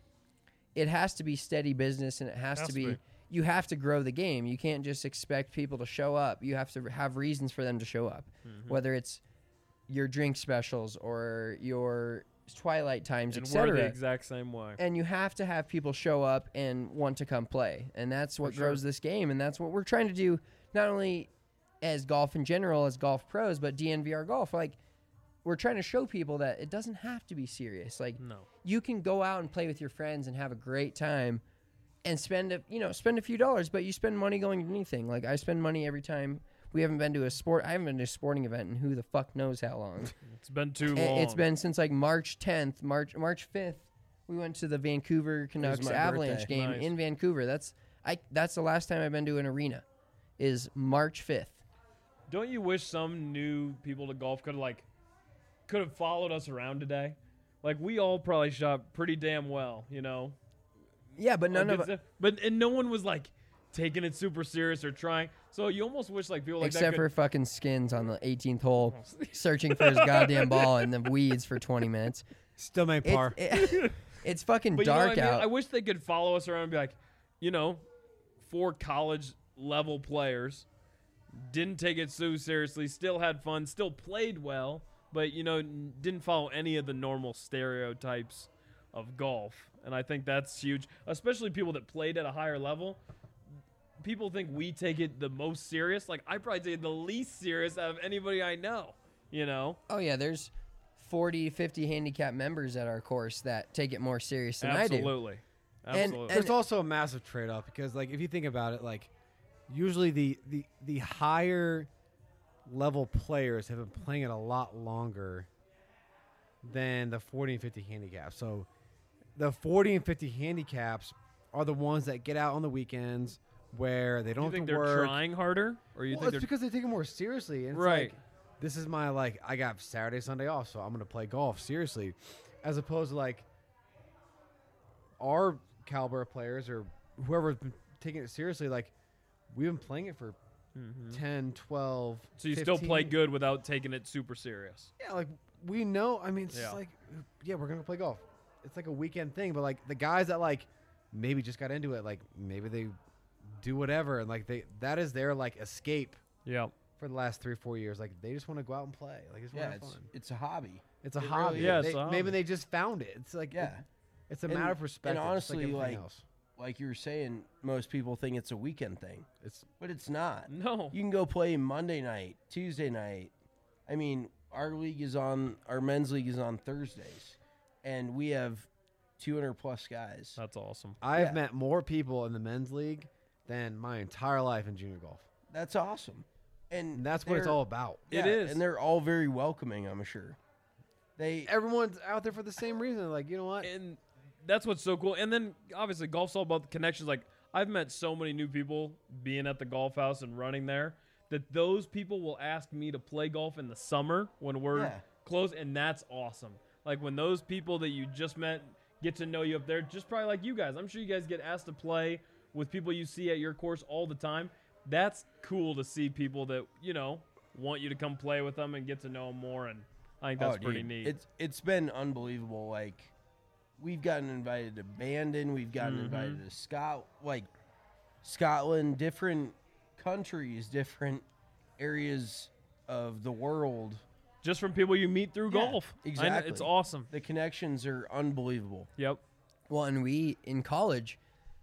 it has to be steady business, and it has to be. You have to grow the game. You can't just expect people to show up. You have to have reasons for them to show up, whether it's your drink specials or your twilight times, And we're the etc. exact same way. And you have to have people show up and want to come play, and that's what For sure. grows this game, and that's what we're trying to do, not only as golf in general, as golf pros, but DNVR golf. Like, we're trying to show people that it doesn't have to be serious. Like, No. you can go out and play with your friends and have a great time, and spend a few dollars, but you spend money going to anything. Like, I spend money every time. I haven't been to a sporting event in who the fuck knows how long. It's been too long. It's been since like March 10th, March 5th. We went to the Vancouver Canucks my Avalanche birthday. game Nice. in Vancouver. That's the last time I've been to an arena. Is March 5th. Don't you wish some new people to golf could have followed us around today? Like, we all probably shot pretty damn well, you know. Yeah, but none Like, of and no one was like taking it super serious or trying. So you almost wish like people like that except could, for fucking Skins on the 18th hole, searching for his goddamn ball in the weeds for 20 minutes. Still made par. It's fucking But you know dark what I mean? out. I wish they could follow us around and be like, you know, 4 college level players didn't take it so seriously, still had fun, still played well, but you know, didn't follow any of the normal stereotypes of golf. And I think that's huge, especially people that played at a higher level. People think we take it the most serious. Like, I probably take it the least serious out of anybody I know, you know? Oh yeah, there's 40, 50 handicap members at our course that take it more serious than I do. Absolutely. And- Absolutely. There's also a massive trade-off because, like, if you think about it, like, usually the higher level players have been playing it a lot longer than the 40 and 50 handicaps. So the 40 and 50 handicaps are the ones that get out on the weekends where they don't you think have to they're work. trying harder? Or you Well, think it's they're because they take it more seriously. And it's Right. like, this is my, like, I got Saturday, Sunday off, so I'm going to play golf seriously. As opposed to, like, our caliber of players or whoever's been taking it seriously, like, we've been playing it for 10, 12, So you still play 15. good without taking it super serious. Yeah, like, we know. I mean, it's just Yeah. like, yeah, we're going to play golf. It's like a weekend thing. But, like, the guys that, like, maybe just got into it, like, maybe they do whatever. And, like, that is their, like, escape Yeah. for the last 3 or 4 years. Like, they just want to go out and play. Like, it's Yeah, have fun. it's a hobby. It's a It hobby. really Yeah, They- it's a maybe hobby. they just found it. It's like Yeah. it's a And- matter of perspective. and honestly, just like everything like- else. Like you were saying, most people think it's a weekend thing, It's but it's not. No. You can go play Monday night, Tuesday night. I mean, our men's league is on Thursdays, and we have 200 plus guys. That's awesome. I've Yeah. met more people in the men's league than my entire life in junior golf, That's awesome, and that's what it's they're- all about. It yeah, is. and they're all very welcoming. I'm sure. Everyone's out there for the same reason. Like, you know what? And that's what's so cool. And then obviously golf's all about the connections. Like, I've met so many new people being at the golf house and running there that those people will ask me to play golf in the summer when we're Yeah. close, and that's awesome. Like, when those people that you just met get to know you up there, just probably like you guys. I'm sure you guys get asked to play with people you see at your course all the time. That's cool to see people that, you know, want you to come play with them and get to know them more, and I think that's pretty dude, neat. It's been unbelievable. Like, we've gotten invited to Bandon, we've gotten invited to Scotland, different countries, different areas of the world. Just from people you meet through Yeah, golf. I know, exactly. it's awesome. The connections are unbelievable. Yep. Well, and we in college,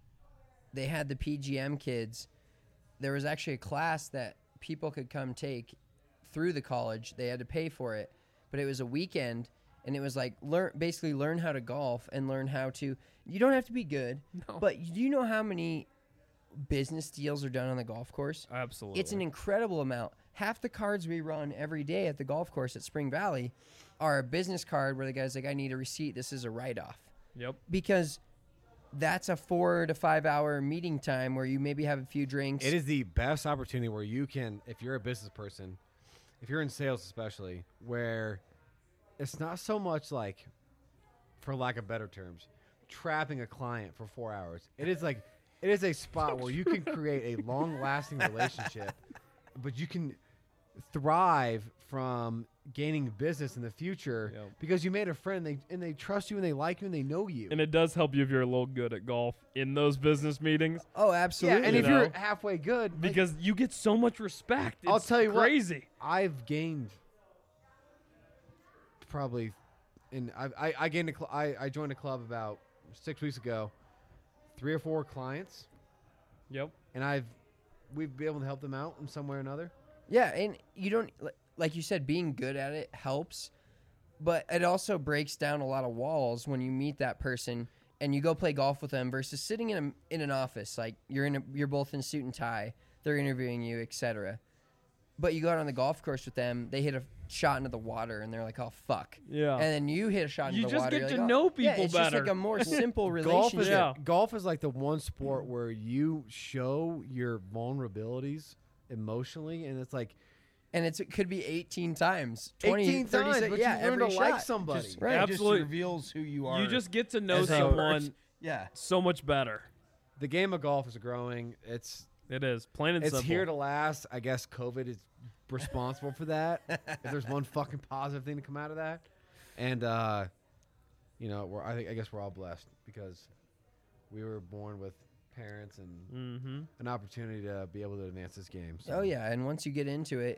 they had the PGM kids. There was actually a class that people could come take through the college. They had to pay for it, but it was a weekend, and it was like learn how to golf and learn how to. You don't have to be good, but do you know how many business deals are done on the golf course? Absolutely. It's an incredible amount. Half the cards we run every day at the golf course at Spring Valley are a business card where the guy's like, I need a receipt. This is a write-off. Yep. Because that's a 4 to 5 hour meeting time where you maybe have a few drinks. It is the best opportunity where you can, if you're a business person, if you're in sales especially, where it's not so much like, for lack of better terms, trapping a client for 4 hours. It is like, it is a spot where you can create a long-lasting relationship, but you can thrive from gaining business in the future Yep. because you made a friend, and they trust you and they like you and they know you. And it does help you if you're a little good at golf in those business meetings Oh, Yeah, absolutely. and You if you're know? halfway good, like, because you get so much respect. It's I'll tell you what, crazy. I've gained probably and I gained I joined a club about 6 weeks ago. 3 or 4 clients, Yep. and we've been able to help them out in some way or another. Yeah, and you don't like you said, being good at it helps, but it also breaks down a lot of walls when you meet that person and you go play golf with them versus sitting in an office. Like you're both in suit and tie, they're interviewing you, etc. But you go out on the golf course with them, they hit a shot into the water, and they're like, "Oh fuck!" Yeah. And then you hit a shot into You the just water. get you're to like, know "Oh." Yeah, people it's just like better. a more simple Golf relationship. is golf is like the one sport where you show your vulnerabilities emotionally, and it's like And it could be 18 times, 20, 18 30 times, sec- but yeah, you learn to every like shot. somebody. Just, Right. It just Absolutely. reveals who you are. You just get to know as a someone person. Yeah. so much better. The game of golf is growing. It's It is plain and simple. here to last. I guess COVID is responsible for that. If there's one fucking positive thing to come out of that, and you know, I guess we're all blessed because we were born with parents and an opportunity to be able to advance this game. So. Oh yeah, and once you get into it,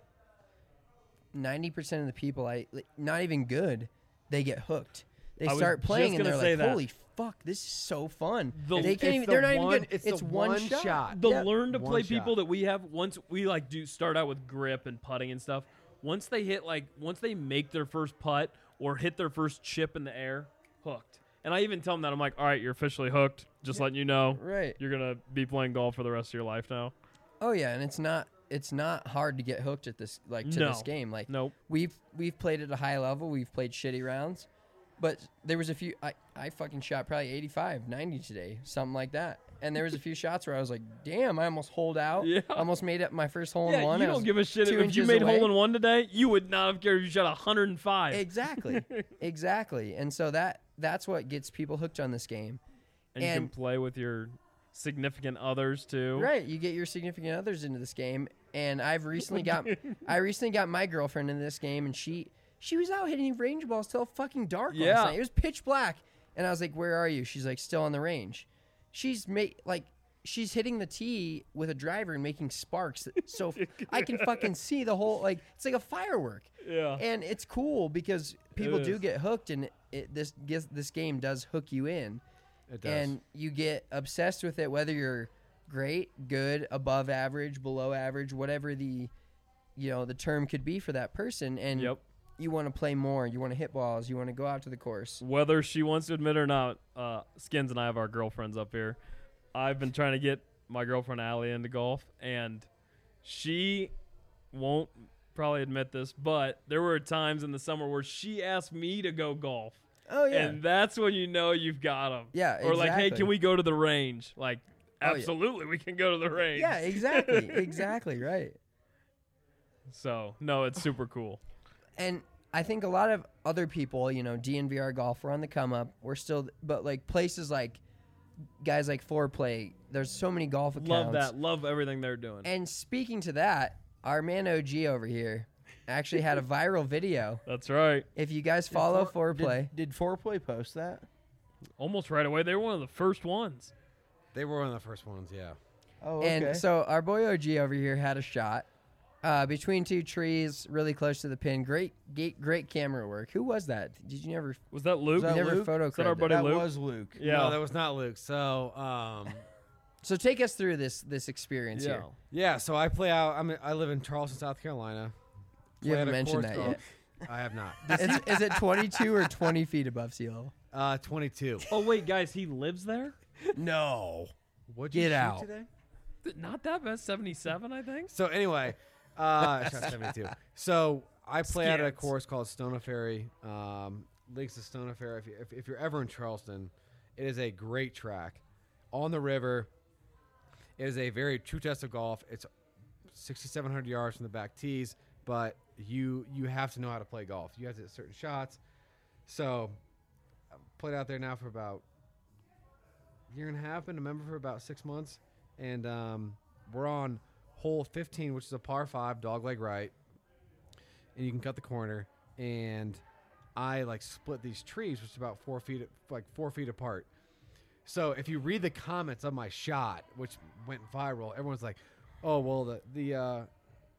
90% of the people, not even good, they get hooked. They I was start playing just and they're gonna say like, that. "Holy fuck, this is so fun!" The- They It's can't even. the They're not even one- good. it's It's the one one shot. shot. The Yeah. learn to One play shot. people that we have, once we like do start out with grip and putting and stuff, once they make their first putt or hit their first chip in the air, hooked. And I even tell them that, I'm like, all right, you're officially hooked. Just letting you know. Right. You're gonna be playing golf for the rest of your life now. Oh yeah, and it's not hard to get hooked at this this game. Like Nope. we've played at a high level. We've played shitty rounds, but there was a few. I fucking shot probably 85, 90 today, something like that. And there was a few shots where I was like, "Damn, I almost holed out. Yeah. Almost made up my first hole in Yeah, one." you I don't was give a shit 2 if you inches made away. hole in one today. You would not have cared if you shot 105. Exactly, exactly. And so that's what gets people hooked on this game. And you can play with your significant others too. Right, you get your significant others into this game, and I recently got my girlfriend into this game, and she was out hitting range balls till fucking dark last Yeah. night. It was pitch black, and I was like, "Where are you?" She's like, "Still on the range." She's she's hitting the tee with a driver and making sparks, so I can fucking see the whole it's like a firework. Yeah. And it's cool because people do is. get hooked, and this game does hook you in. It does. And you get obsessed with it, whether you're great, good, above average, below average, whatever the term could be for that person. And Yep. you want to play more. You want to hit balls. You want to go out to the course. Whether she wants to admit it or not, Skins and I have our girlfriends up here. I've been trying to get my girlfriend Allie into golf, and she won't probably admit this, but there were times in the summer where she asked me to go golf. Oh yeah. And that's when you know you've got them. Yeah, Or like, hey, exactly. can we go to the range? Like, Oh, yeah. absolutely, we can go to the range. Yeah, exactly. Exactly, right. So, no, it's super cool. And I think a lot of other people, DNVR golf, we're on the come up. We're still, but like places like guys like Foreplay, there's so many golf accounts. Love that. Love everything they're doing. And speaking to that, our man OG over here actually had a viral video. That's right. If you guys follow Foreplay, Did Foreplay post that? Almost right away. They were one of the first ones. They were one of the first ones, yeah. Oh, okay. and so our boy OG over here had a shot between two trees, really close to the pin. Great camera work. Who was that? Did you never? Was that Luke? that never Luke? photo Is that our cred buddy that? that Luke? was Luke. Yeah. No, that was not Luke. So, So take us through this experience yeah. here. yeah, so I play out. I live in Charleston, South Carolina. You Play haven't at a mentioned course that yet. called- I have not. Is it 22 or 20 feet above sea level? 22. Oh, wait, guys, he lives there? No. What'd Get you shoot out. today? Not that bad. 77, I think. So anyway, I shot 72. So I play at a Skins. course called Stona Ferry. Links to Stona Ferry. If you're ever in Charleston, it is a great track on the river. It is a very true test of golf. It's 6,700 yards from the back tees, but you have to know how to play golf. You have to hit certain shots. So I've played out there now for about a year and a half. Been a member for about 6 months, and we're on hole 15, which is a par 5 dogleg right, and you can cut the corner. And I split these trees, which is about 4 feet apart. So if you read the comments of my shot, which went viral, everyone's like, "Oh well, the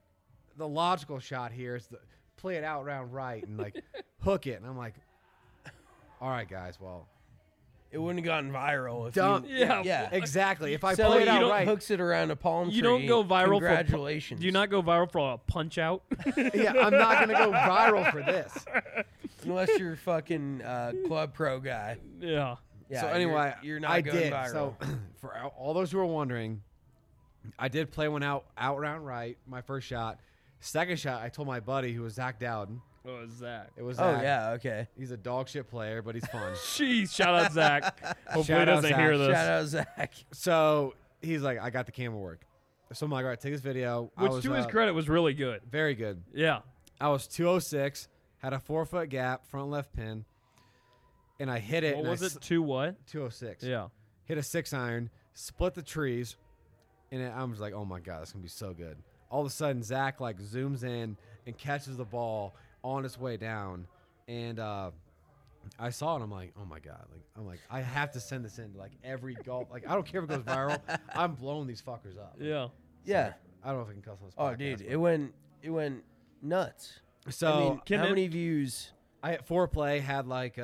logical shot here is to play it out round right and hook it." And I'm like, all right, guys, well, It wouldn't have gotten viral if Dumb. you. Yeah. exactly. If I So play it it out don't- right, hooks it around a palm tree. You don't go viral Congratulations. Do you not go viral for a punch out? yeah, I'm not going to go viral for this. Unless you're a fucking club pro guy. yeah. Yeah, so anyway, you're not I going did. viral. So for all those who are wondering, I did play one out round right, my first shot. Second shot, I told my buddy who was Zach Dowden. What was that? It was Oh Zach. yeah, okay. He's a dog shit player, but he's fun. Jeez, shout out Zach. Hopefully he Shout out doesn't Zach. hear this. Shout out Zach. So he's like, I got the camera work. So I'm like, all right, take this video. I Which was, to his credit was really good. very good. Yeah. I was 206, had a 4-foot gap, front left pin, and I hit it. What and was it? 2 what? 206. Yeah. Hit a 6-iron, split the trees, and I was like, oh my god, that's gonna be so good. All of a sudden, Zach like zooms in and catches the ball on its way down, and I saw it. I'm like, oh my god, I have to send this in to like every golf. Like I don't care if it goes viral. I'm blowing these fuckers up. Yeah. Yeah. I don't know if I can cuss on this Oh, podcast, dude, but- it went nuts. So I mean, Can how it- many views? I hit foreplay, had like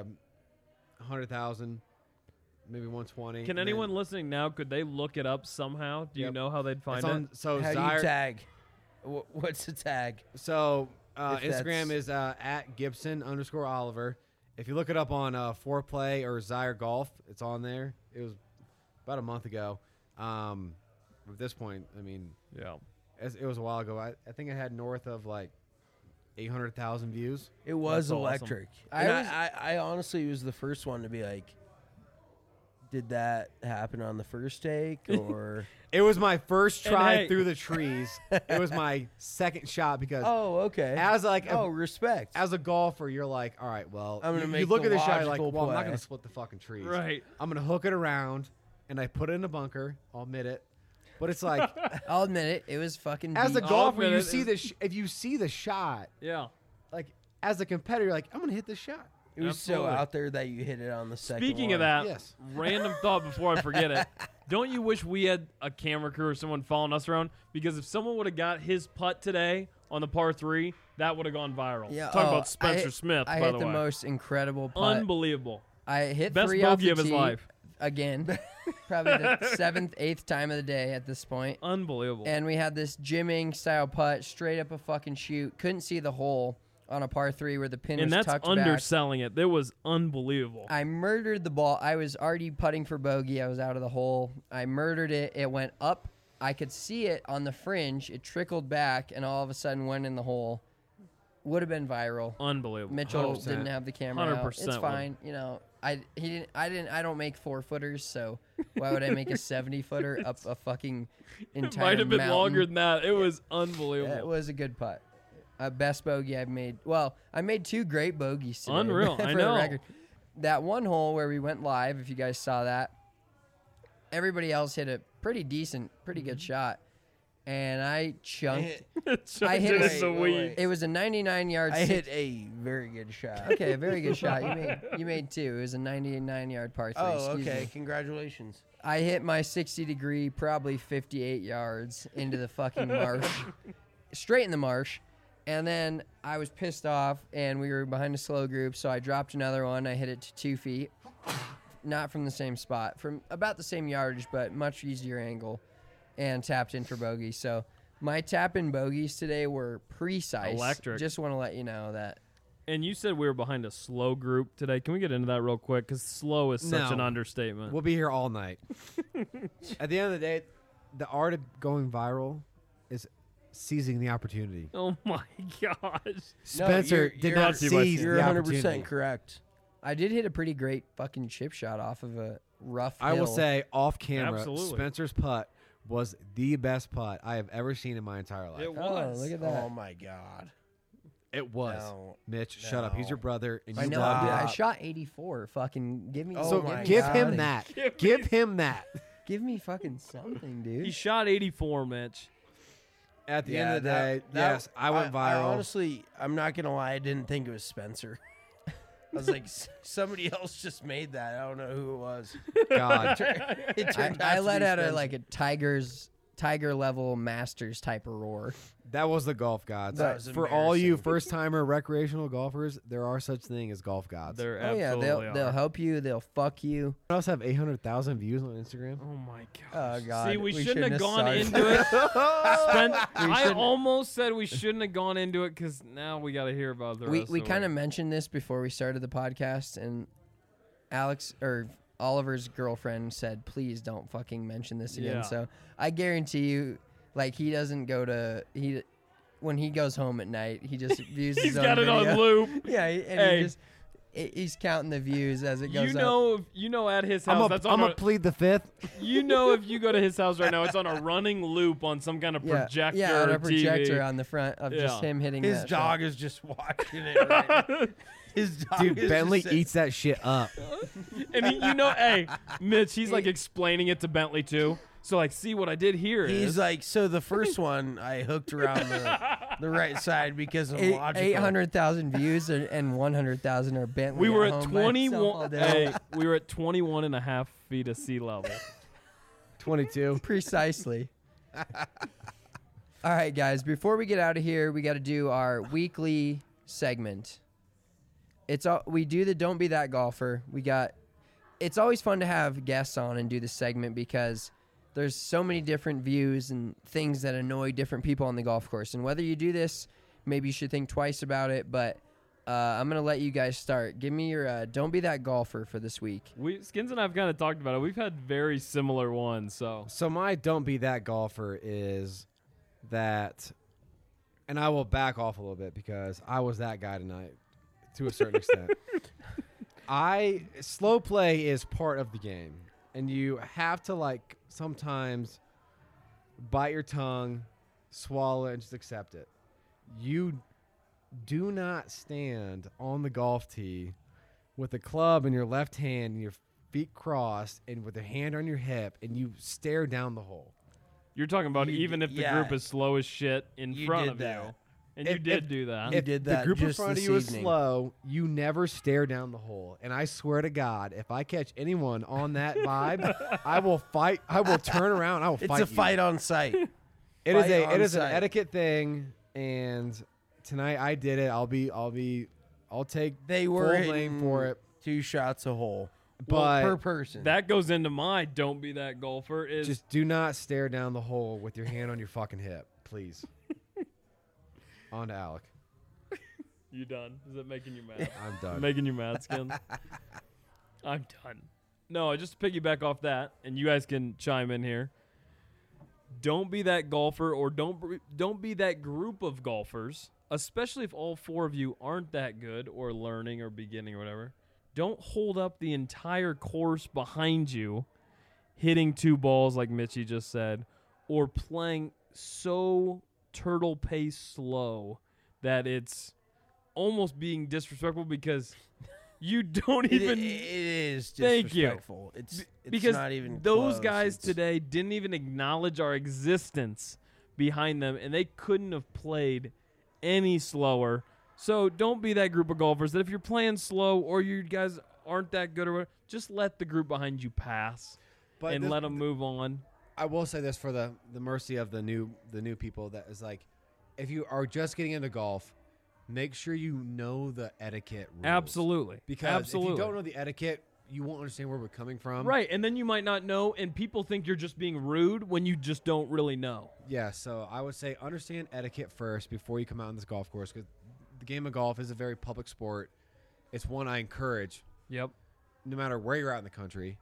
100,000, maybe 120. Can and anyone then listening now, could they look it up somehow? Do you Yep. know how they'd find it's on, it? so How do Zyre, you tag? What's the tag? So If Instagram that's- is at Gibson_Oliver. If you look it up on Foreplay or Zyre Golf, it's on there. It was about a month ago. At this point, I mean, Yeah. it was a while ago. I think I had north of like 800,000 views. It was That's awesome. electric. I And was- I honestly was the first one to be like, did that happen on the first take or? It was my first And try hey- through the trees. It was my second shot because Oh, okay. as like oh, respect. as a golfer, you're like, all right, well, I'm gonna you make look the at the shot, you're like, logical well, I'm not play. going to split the fucking trees. Right. I'm going to hook it around, and I put it in a bunker. I'll admit it. But it's like, I'll admit it. It was fucking. as a deep. golfer, admit you it, see if you see the shot, Yeah. like as a competitor, you're like, I'm going to hit this shot. it was so Absolutely. out there that you hit it on the second Speaking of one. that, Yes. random thought before I forget it. Don't you wish we had a camera crew or someone following us around? Because if someone would have got his putt today on the par 3, that would have gone viral. Yeah, Talk oh, about Spencer I hit, Smith, I by hit the the way. most incredible putt. Unbelievable. I hit Best 3 off bogey the of his tee life. again. Probably the 7th, 8th time of the day at this point. Unbelievable. And we had this jimming style putt straight up a fucking shoot. Couldn't see the hole on a par 3 where the pin And was that's tucked back. underselling it. That was unbelievable. I murdered the ball. I was already putting for bogey. I was out of the hole. I murdered it. It went up. I could see it on the fringe. It trickled back and all of a sudden went in the hole. Would have been viral. Unbelievable. Mitchell 100%. didn't have the camera out. 100% It's would. fine. You know, I don't make 4-footers, so why would I make a 70-footer up a fucking entire Might have been mountain? longer than that. It was unbelievable. It was a good putt. Best bogey I've made. Well, I made 2 great bogeys today. Unreal. for I the know. record. That one hole where we went live, if you guys saw that, everybody else hit a pretty decent, pretty good shot. And I chunked. I hit It a- is the wait, weed. wait. It was a 99-yard. I hit a very good shot. Okay, a very good shot. You made 2. It was a 99-yard par 3. Oh, excuse okay. me. Congratulations. I hit my 60-degree, probably 58 yards into the fucking marsh, straight in the marsh. And then I was pissed off, and we were behind a slow group, so I dropped another one. I hit it to 2 feet, not from the same spot, from about the same yardage, but much easier angle, and tapped in for bogey. So my tap-in bogeys today were precise. Electric. Just want to let you know that. And you said we were behind a slow group today. Can we get into that real quick? Because slow is such No. an understatement. We'll be here all night. At the end of the day, the art of going viral is seizing the opportunity. Oh my gosh. Spencer you're- did you're- not seize You're the 100% opportunity. correct. I did hit a pretty great fucking chip shot off of a rough I will hill. say off camera, Absolutely. Spencer's putt was the best putt I have ever seen in my entire life. It Oh, was. look at that. Oh my God. It was. No. Mitch, shut up. He's your brother, and you I know. loved Dude, it. I shot 84. Fucking give me. Oh So my give God. him that. Give him that. Give me fucking something, dude. He shot 84, Mitch. At the end of the day, yes, I went I viral. honestly, I'm not gonna lie. I didn't think it was Spencer. I was like, somebody else just made that. I don't know who it was. God. It turned I out to let be out Spencer. a tiger level masters type of roar. That was the golf gods. That was For all you embarrassing. first-timer recreational golfers, there are such thing as golf gods. There Oh yeah, absolutely they'll are. help you. They'll fuck you. I also have 800,000 views on Instagram. Oh my Oh gosh. god. See, we shouldn't have gone started. into it. I shouldn't- almost said we shouldn't have gone into it because now we got to hear about the rest We of kind it. of mentioned this before we started the podcast, and Alex or Oliver's girlfriend said, "Please don't fucking mention this again." Yeah. So I guarantee you, like he doesn't go to when he goes home at night, he just views He's his own got it video. on loop. Yeah, and Hey. he just he's counting the views as it goes up. You know, at his house, that's on I'm a, gonna plead the fifth. you know, if you go to his house right now, it's on a running loop on some kind of projector. Yeah, on a TV. projector on the front of just Yeah. him hitting His that dog is just watching it. Right now. His dog Dude, is Bentley just eats that shit up. And he, hey, Mitch, he's like explaining it to Bentley too. So like, see what I did here He's is like, so the first one I hooked around the right side because I'm logical. 800,000 views and 100,000 are Bentley. we were at at home by itself 21. all day. Hey, we were at 21 and a half feet of sea level. 22. Precisely. All right, guys. Before we get out of here, we got to do our weekly segment. We do the Don't Be That Golfer. It's always fun to have guests on and do the segment because there's so many different views and things that annoy different people on the golf course. And whether you do this, maybe you should think twice about it. But I'm gonna let you guys start. Give me your Don't Be That Golfer for this week. Skins and I've kind of talked about it. We've had very similar ones. So My don't be that golfer is that, and I will back off a little bit because I was that guy tonight to a certain extent. Slow play is part of the game, and you have to sometimes bite your tongue, swallow it, and just accept it. You do not stand on the golf tee with a club in your left hand and your feet crossed and with a hand on your hip, and you stare down the hole. you're talking about You even d- if the yeah. group is slow as shit in You front did of that. you, and If- you did if- do that. You If did the that group in just front of this you is evening. slow, you never stare down the hole. And I swear to God, if I catch anyone on that vibe, I will fight. I will turn around. I will It's fight. a fight on site. It is fight a. on It is an site. etiquette thing. And tonight I did it. I'll take They were full blame hitting for it. 2 shots a hole But per person. That goes into my don't be that golfer is just do not stare down the hole with your hand on your fucking hip, please. On to Alec. you done? Is it making you mad? I'm done. Making you mad, Skins? I'm done. No, just to piggyback off that, and you guys can chime in here. Don't be that golfer, or don't be that group of golfers, especially if all 4 of you aren't that good or learning or beginning or whatever. Don't hold up the entire course behind you, hitting 2 balls like Mitchie just said, or playing so turtle pace slow that it's almost being disrespectful because you don't It even is Thank you. disrespectful. It's because not even those close. guys It's- today didn't even acknowledge our existence behind them, and they couldn't have played any slower. So don't be that group of golfers that if you're playing slow or you guys aren't that good or whatever, just let the group behind you pass and this- let them move on. I will say this for the mercy of the new people, that is like, if you are just getting into golf, make sure you know the etiquette rules. Absolutely. Because Absolutely. if you don't know the etiquette, you won't understand where we're coming from. Right, and then you might not know, and people think you're just being rude when you just don't really know. Yeah, so I would say understand etiquette first before you come out on this golf course, because the game of golf is a very public sport. It's one I encourage, Yep. no matter where you're at in the country.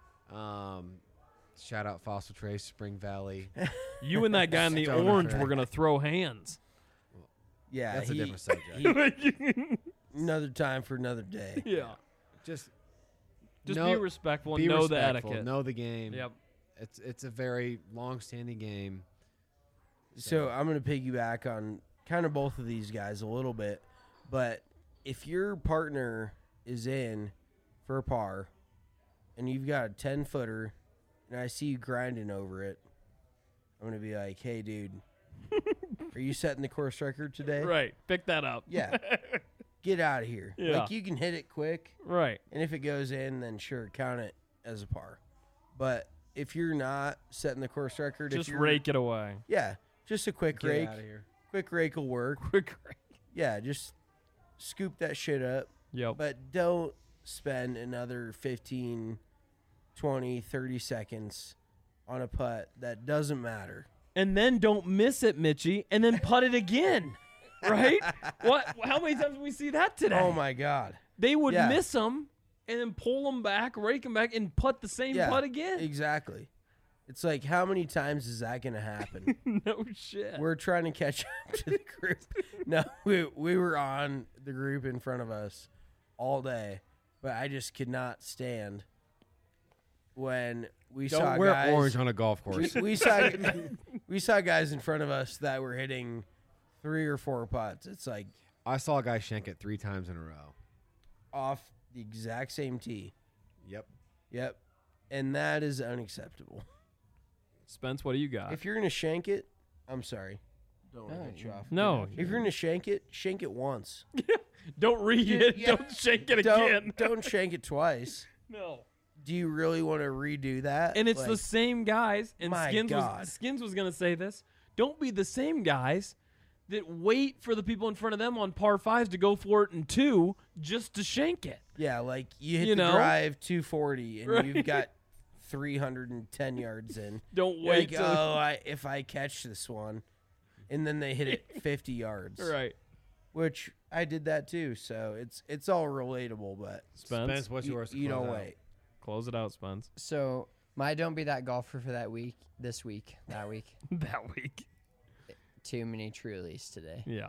Shout out Fossil Trace, Spring Valley. You and that guy in the Stoner orange track. were going to throw hands. Yeah, That's a different subject. Another time for another day. Yeah. Just Just know- be respectful and be know the respectful, etiquette. know the game. Yep. It's a very long-standing game. So I'm going to piggyback on kind of both of these guys a little bit. But if your partner is in for a par and you've got a 10-footer and I see you grinding over it, I'm going to be like, hey, dude, are you setting the course record today? Right. Pick that up. Yeah. Get out of here. Yeah. Like, you can hit it quick, Right. and if it goes in, then sure, count it as a par. But if you're not setting the course record, Just if you're, rake it away. Yeah, just a quick Get rake. out of here. Quick rake will work. Quick. Yeah, just scoop that shit up. Yep. But don't spend another 15, 20, 30 seconds on a putt that doesn't matter. And then don't miss it, Mitchie, and then putt it again. Right? What? How many times did we see that today? Oh, my God. They would Yeah. miss them and then pull them back, rake them back, and putt the same Yeah, putt again. exactly. It's like, how many times is that going to happen? No shit. We're trying to catch up to the group. No, we were on the group in front of us all day, but I just could not stand when we saw Don't wear guys. orange on a golf course. We saw guys in front of us that were hitting 3 or 4 putts. It's like I saw a guy shank it 3 times in a row. off the exact same tee. Yep. And that is unacceptable. Spence, what do you got? If you're gonna shank it, I'm sorry. Don't want to cut you off. No. If you're gonna shank it once. Don't read it. Yeah. Don't shake it again. Don't shank it twice. No. Do you really want to redo that? And it's Like, the same guys. And My God. Skins was going to say this. Don't be the same guys that wait for the people in front of them on par 5s to go for it in 2 just to shank it. yeah, like you hit You the know? drive 240 and Right. you've got 310 yards in. Don't You're wait like, till if I catch this one, and then they hit it 50 yards. right. Which I did that too, so it's all relatable, but Spence, What's yours? to you close don't out? wait. close it out, Spence. So my don't be that golfer for that week. That week. That week. Too many Trulies today. Yeah.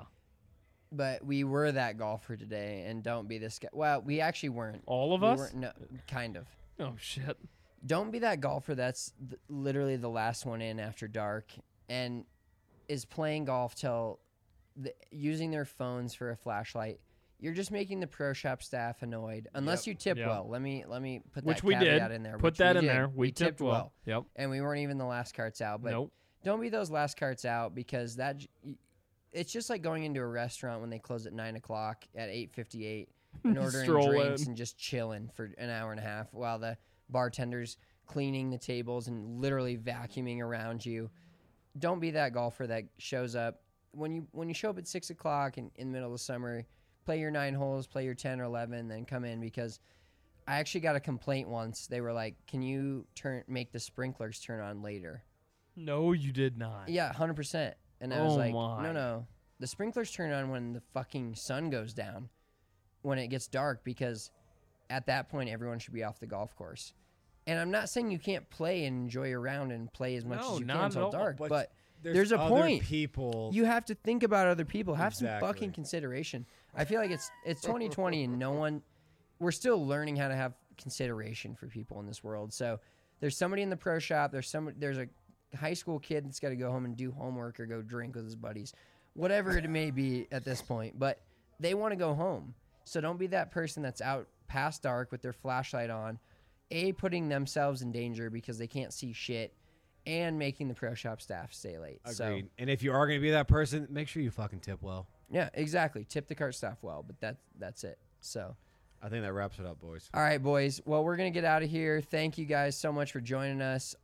But we were that golfer today, and don't be this guy. Well, we actually weren't. All of We us? weren't- No, kind of. Oh, shit. Don't be that golfer that's literally the last one in after dark and is playing golf till using their phones for a flashlight. You're just making the pro shop staff annoyed unless you tip Yep. well. Let me put Which that we caveat did. in there. Put which that we in did. there. We tipped well. Yep. And we weren't even the last carts out. But Nope. don't be those last carts out because it's just like going into a restaurant when they close at 9 o'clock at 8:58 and ordering Stroll drinks in. and just chilling for an hour and a half while the bartender's cleaning the tables and literally vacuuming around you. Don't be that golfer that shows up when you show up at 6 o'clock in the middle of the summer. Play your 9 holes, play your 10 or 11, then come in because I actually got a complaint once. They were like, "Can you make the sprinklers turn on later?" No, you did not. Yeah, 100%. And I was Oh like, my. no. The sprinklers turn on when the fucking sun goes down, when it gets dark, because at that point, everyone should be off the golf course. And I'm not saying you can't play and enjoy your round and play as much No, as you not can at until all. dark, But but there's a other point. People. You have to think about other people. Have Exactly. some fucking consideration. I feel like it's 2020 and we're still learning how to have consideration for people in this world. So there's somebody in the pro shop. There's a high school kid that's got to go home and do homework or go drink with his buddies, whatever it may be at this point. But they want to go home. So don't be that person that's out past dark with their flashlight on, putting themselves in danger because they can't see shit, and making the pro shop staff stay late. So Agreed. And if you are going to be that person, make sure you fucking tip well. yeah, exactly. Tip the cart staff well, but that's it. So, I think that wraps it up, boys. all right, boys. Well, we're gonna get out of here. Thank you guys so much for joining us.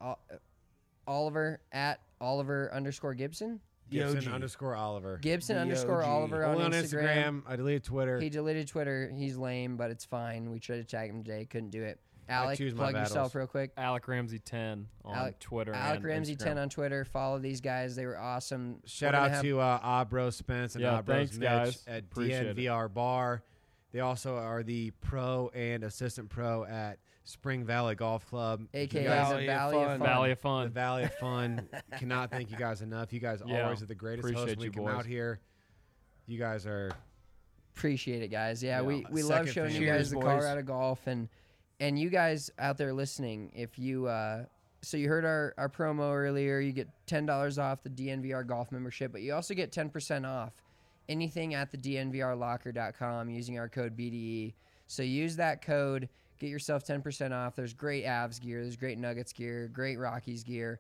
Oliver at Oliver_Gibson. Gibson _ Oliver. Gibson DOG. _ Oliver on Only on Instagram. Instagram. I deleted Twitter. He deleted Twitter. He's lame, but it's fine. We tried to tag him today, couldn't do it. Alec, choose my plug yourself battles. real quick. Alec Ramsey 10 on Twitter. Alec and Ramsey Instagram. 10 on Twitter. Follow these guys. They were awesome. Shout We're gonna out have- to Abro Spence and Yeah, Abros thanks, Mitch guys. at Appreciate it. DNVR Bar. They also are the pro and assistant pro at Spring Valley Golf Club. AKA Valley the of Valley Fun. of Fun. Valley of The Fun. Valley of Fun. Cannot thank you guys enough. You guys Yeah, always are the greatest hosts appreciate when we you, come boys. out here. You guys are Appreciate it, guys. Yeah, Yeah, we love second showing you fan. guys Cheers, the boys. Colorado golf and you guys out there listening. If you so you heard our promo earlier, you get $10 off the DNVR golf membership, but you also get 10% off anything at the DNVRlocker.com using our code BDE. So use that code, get yourself 10% off. There's great Avs gear, there's great Nuggets gear, great Rockies gear,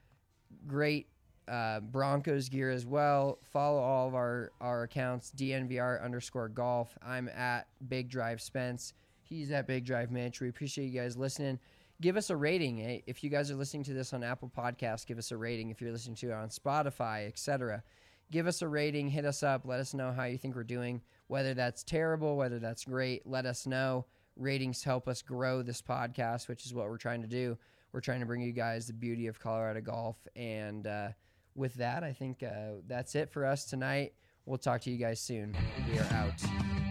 great Broncos gear as well. Follow all of our accounts, DNVR_golf. I'm at Big Drive Spence. He's at Big Drive Mitch. We appreciate you guys listening. Give us a rating. If you guys are listening to this on Apple Podcasts, give us a rating. If you're listening to it on Spotify, etc., give us a rating, hit us up, let us know how you think we're doing, whether that's terrible, whether that's great, let us know. Ratings help us grow this podcast, which is what we're trying to do. We're trying to bring you guys the beauty of Colorado golf. And with that, I think that's it for us tonight. We'll talk to you guys soon. We are out.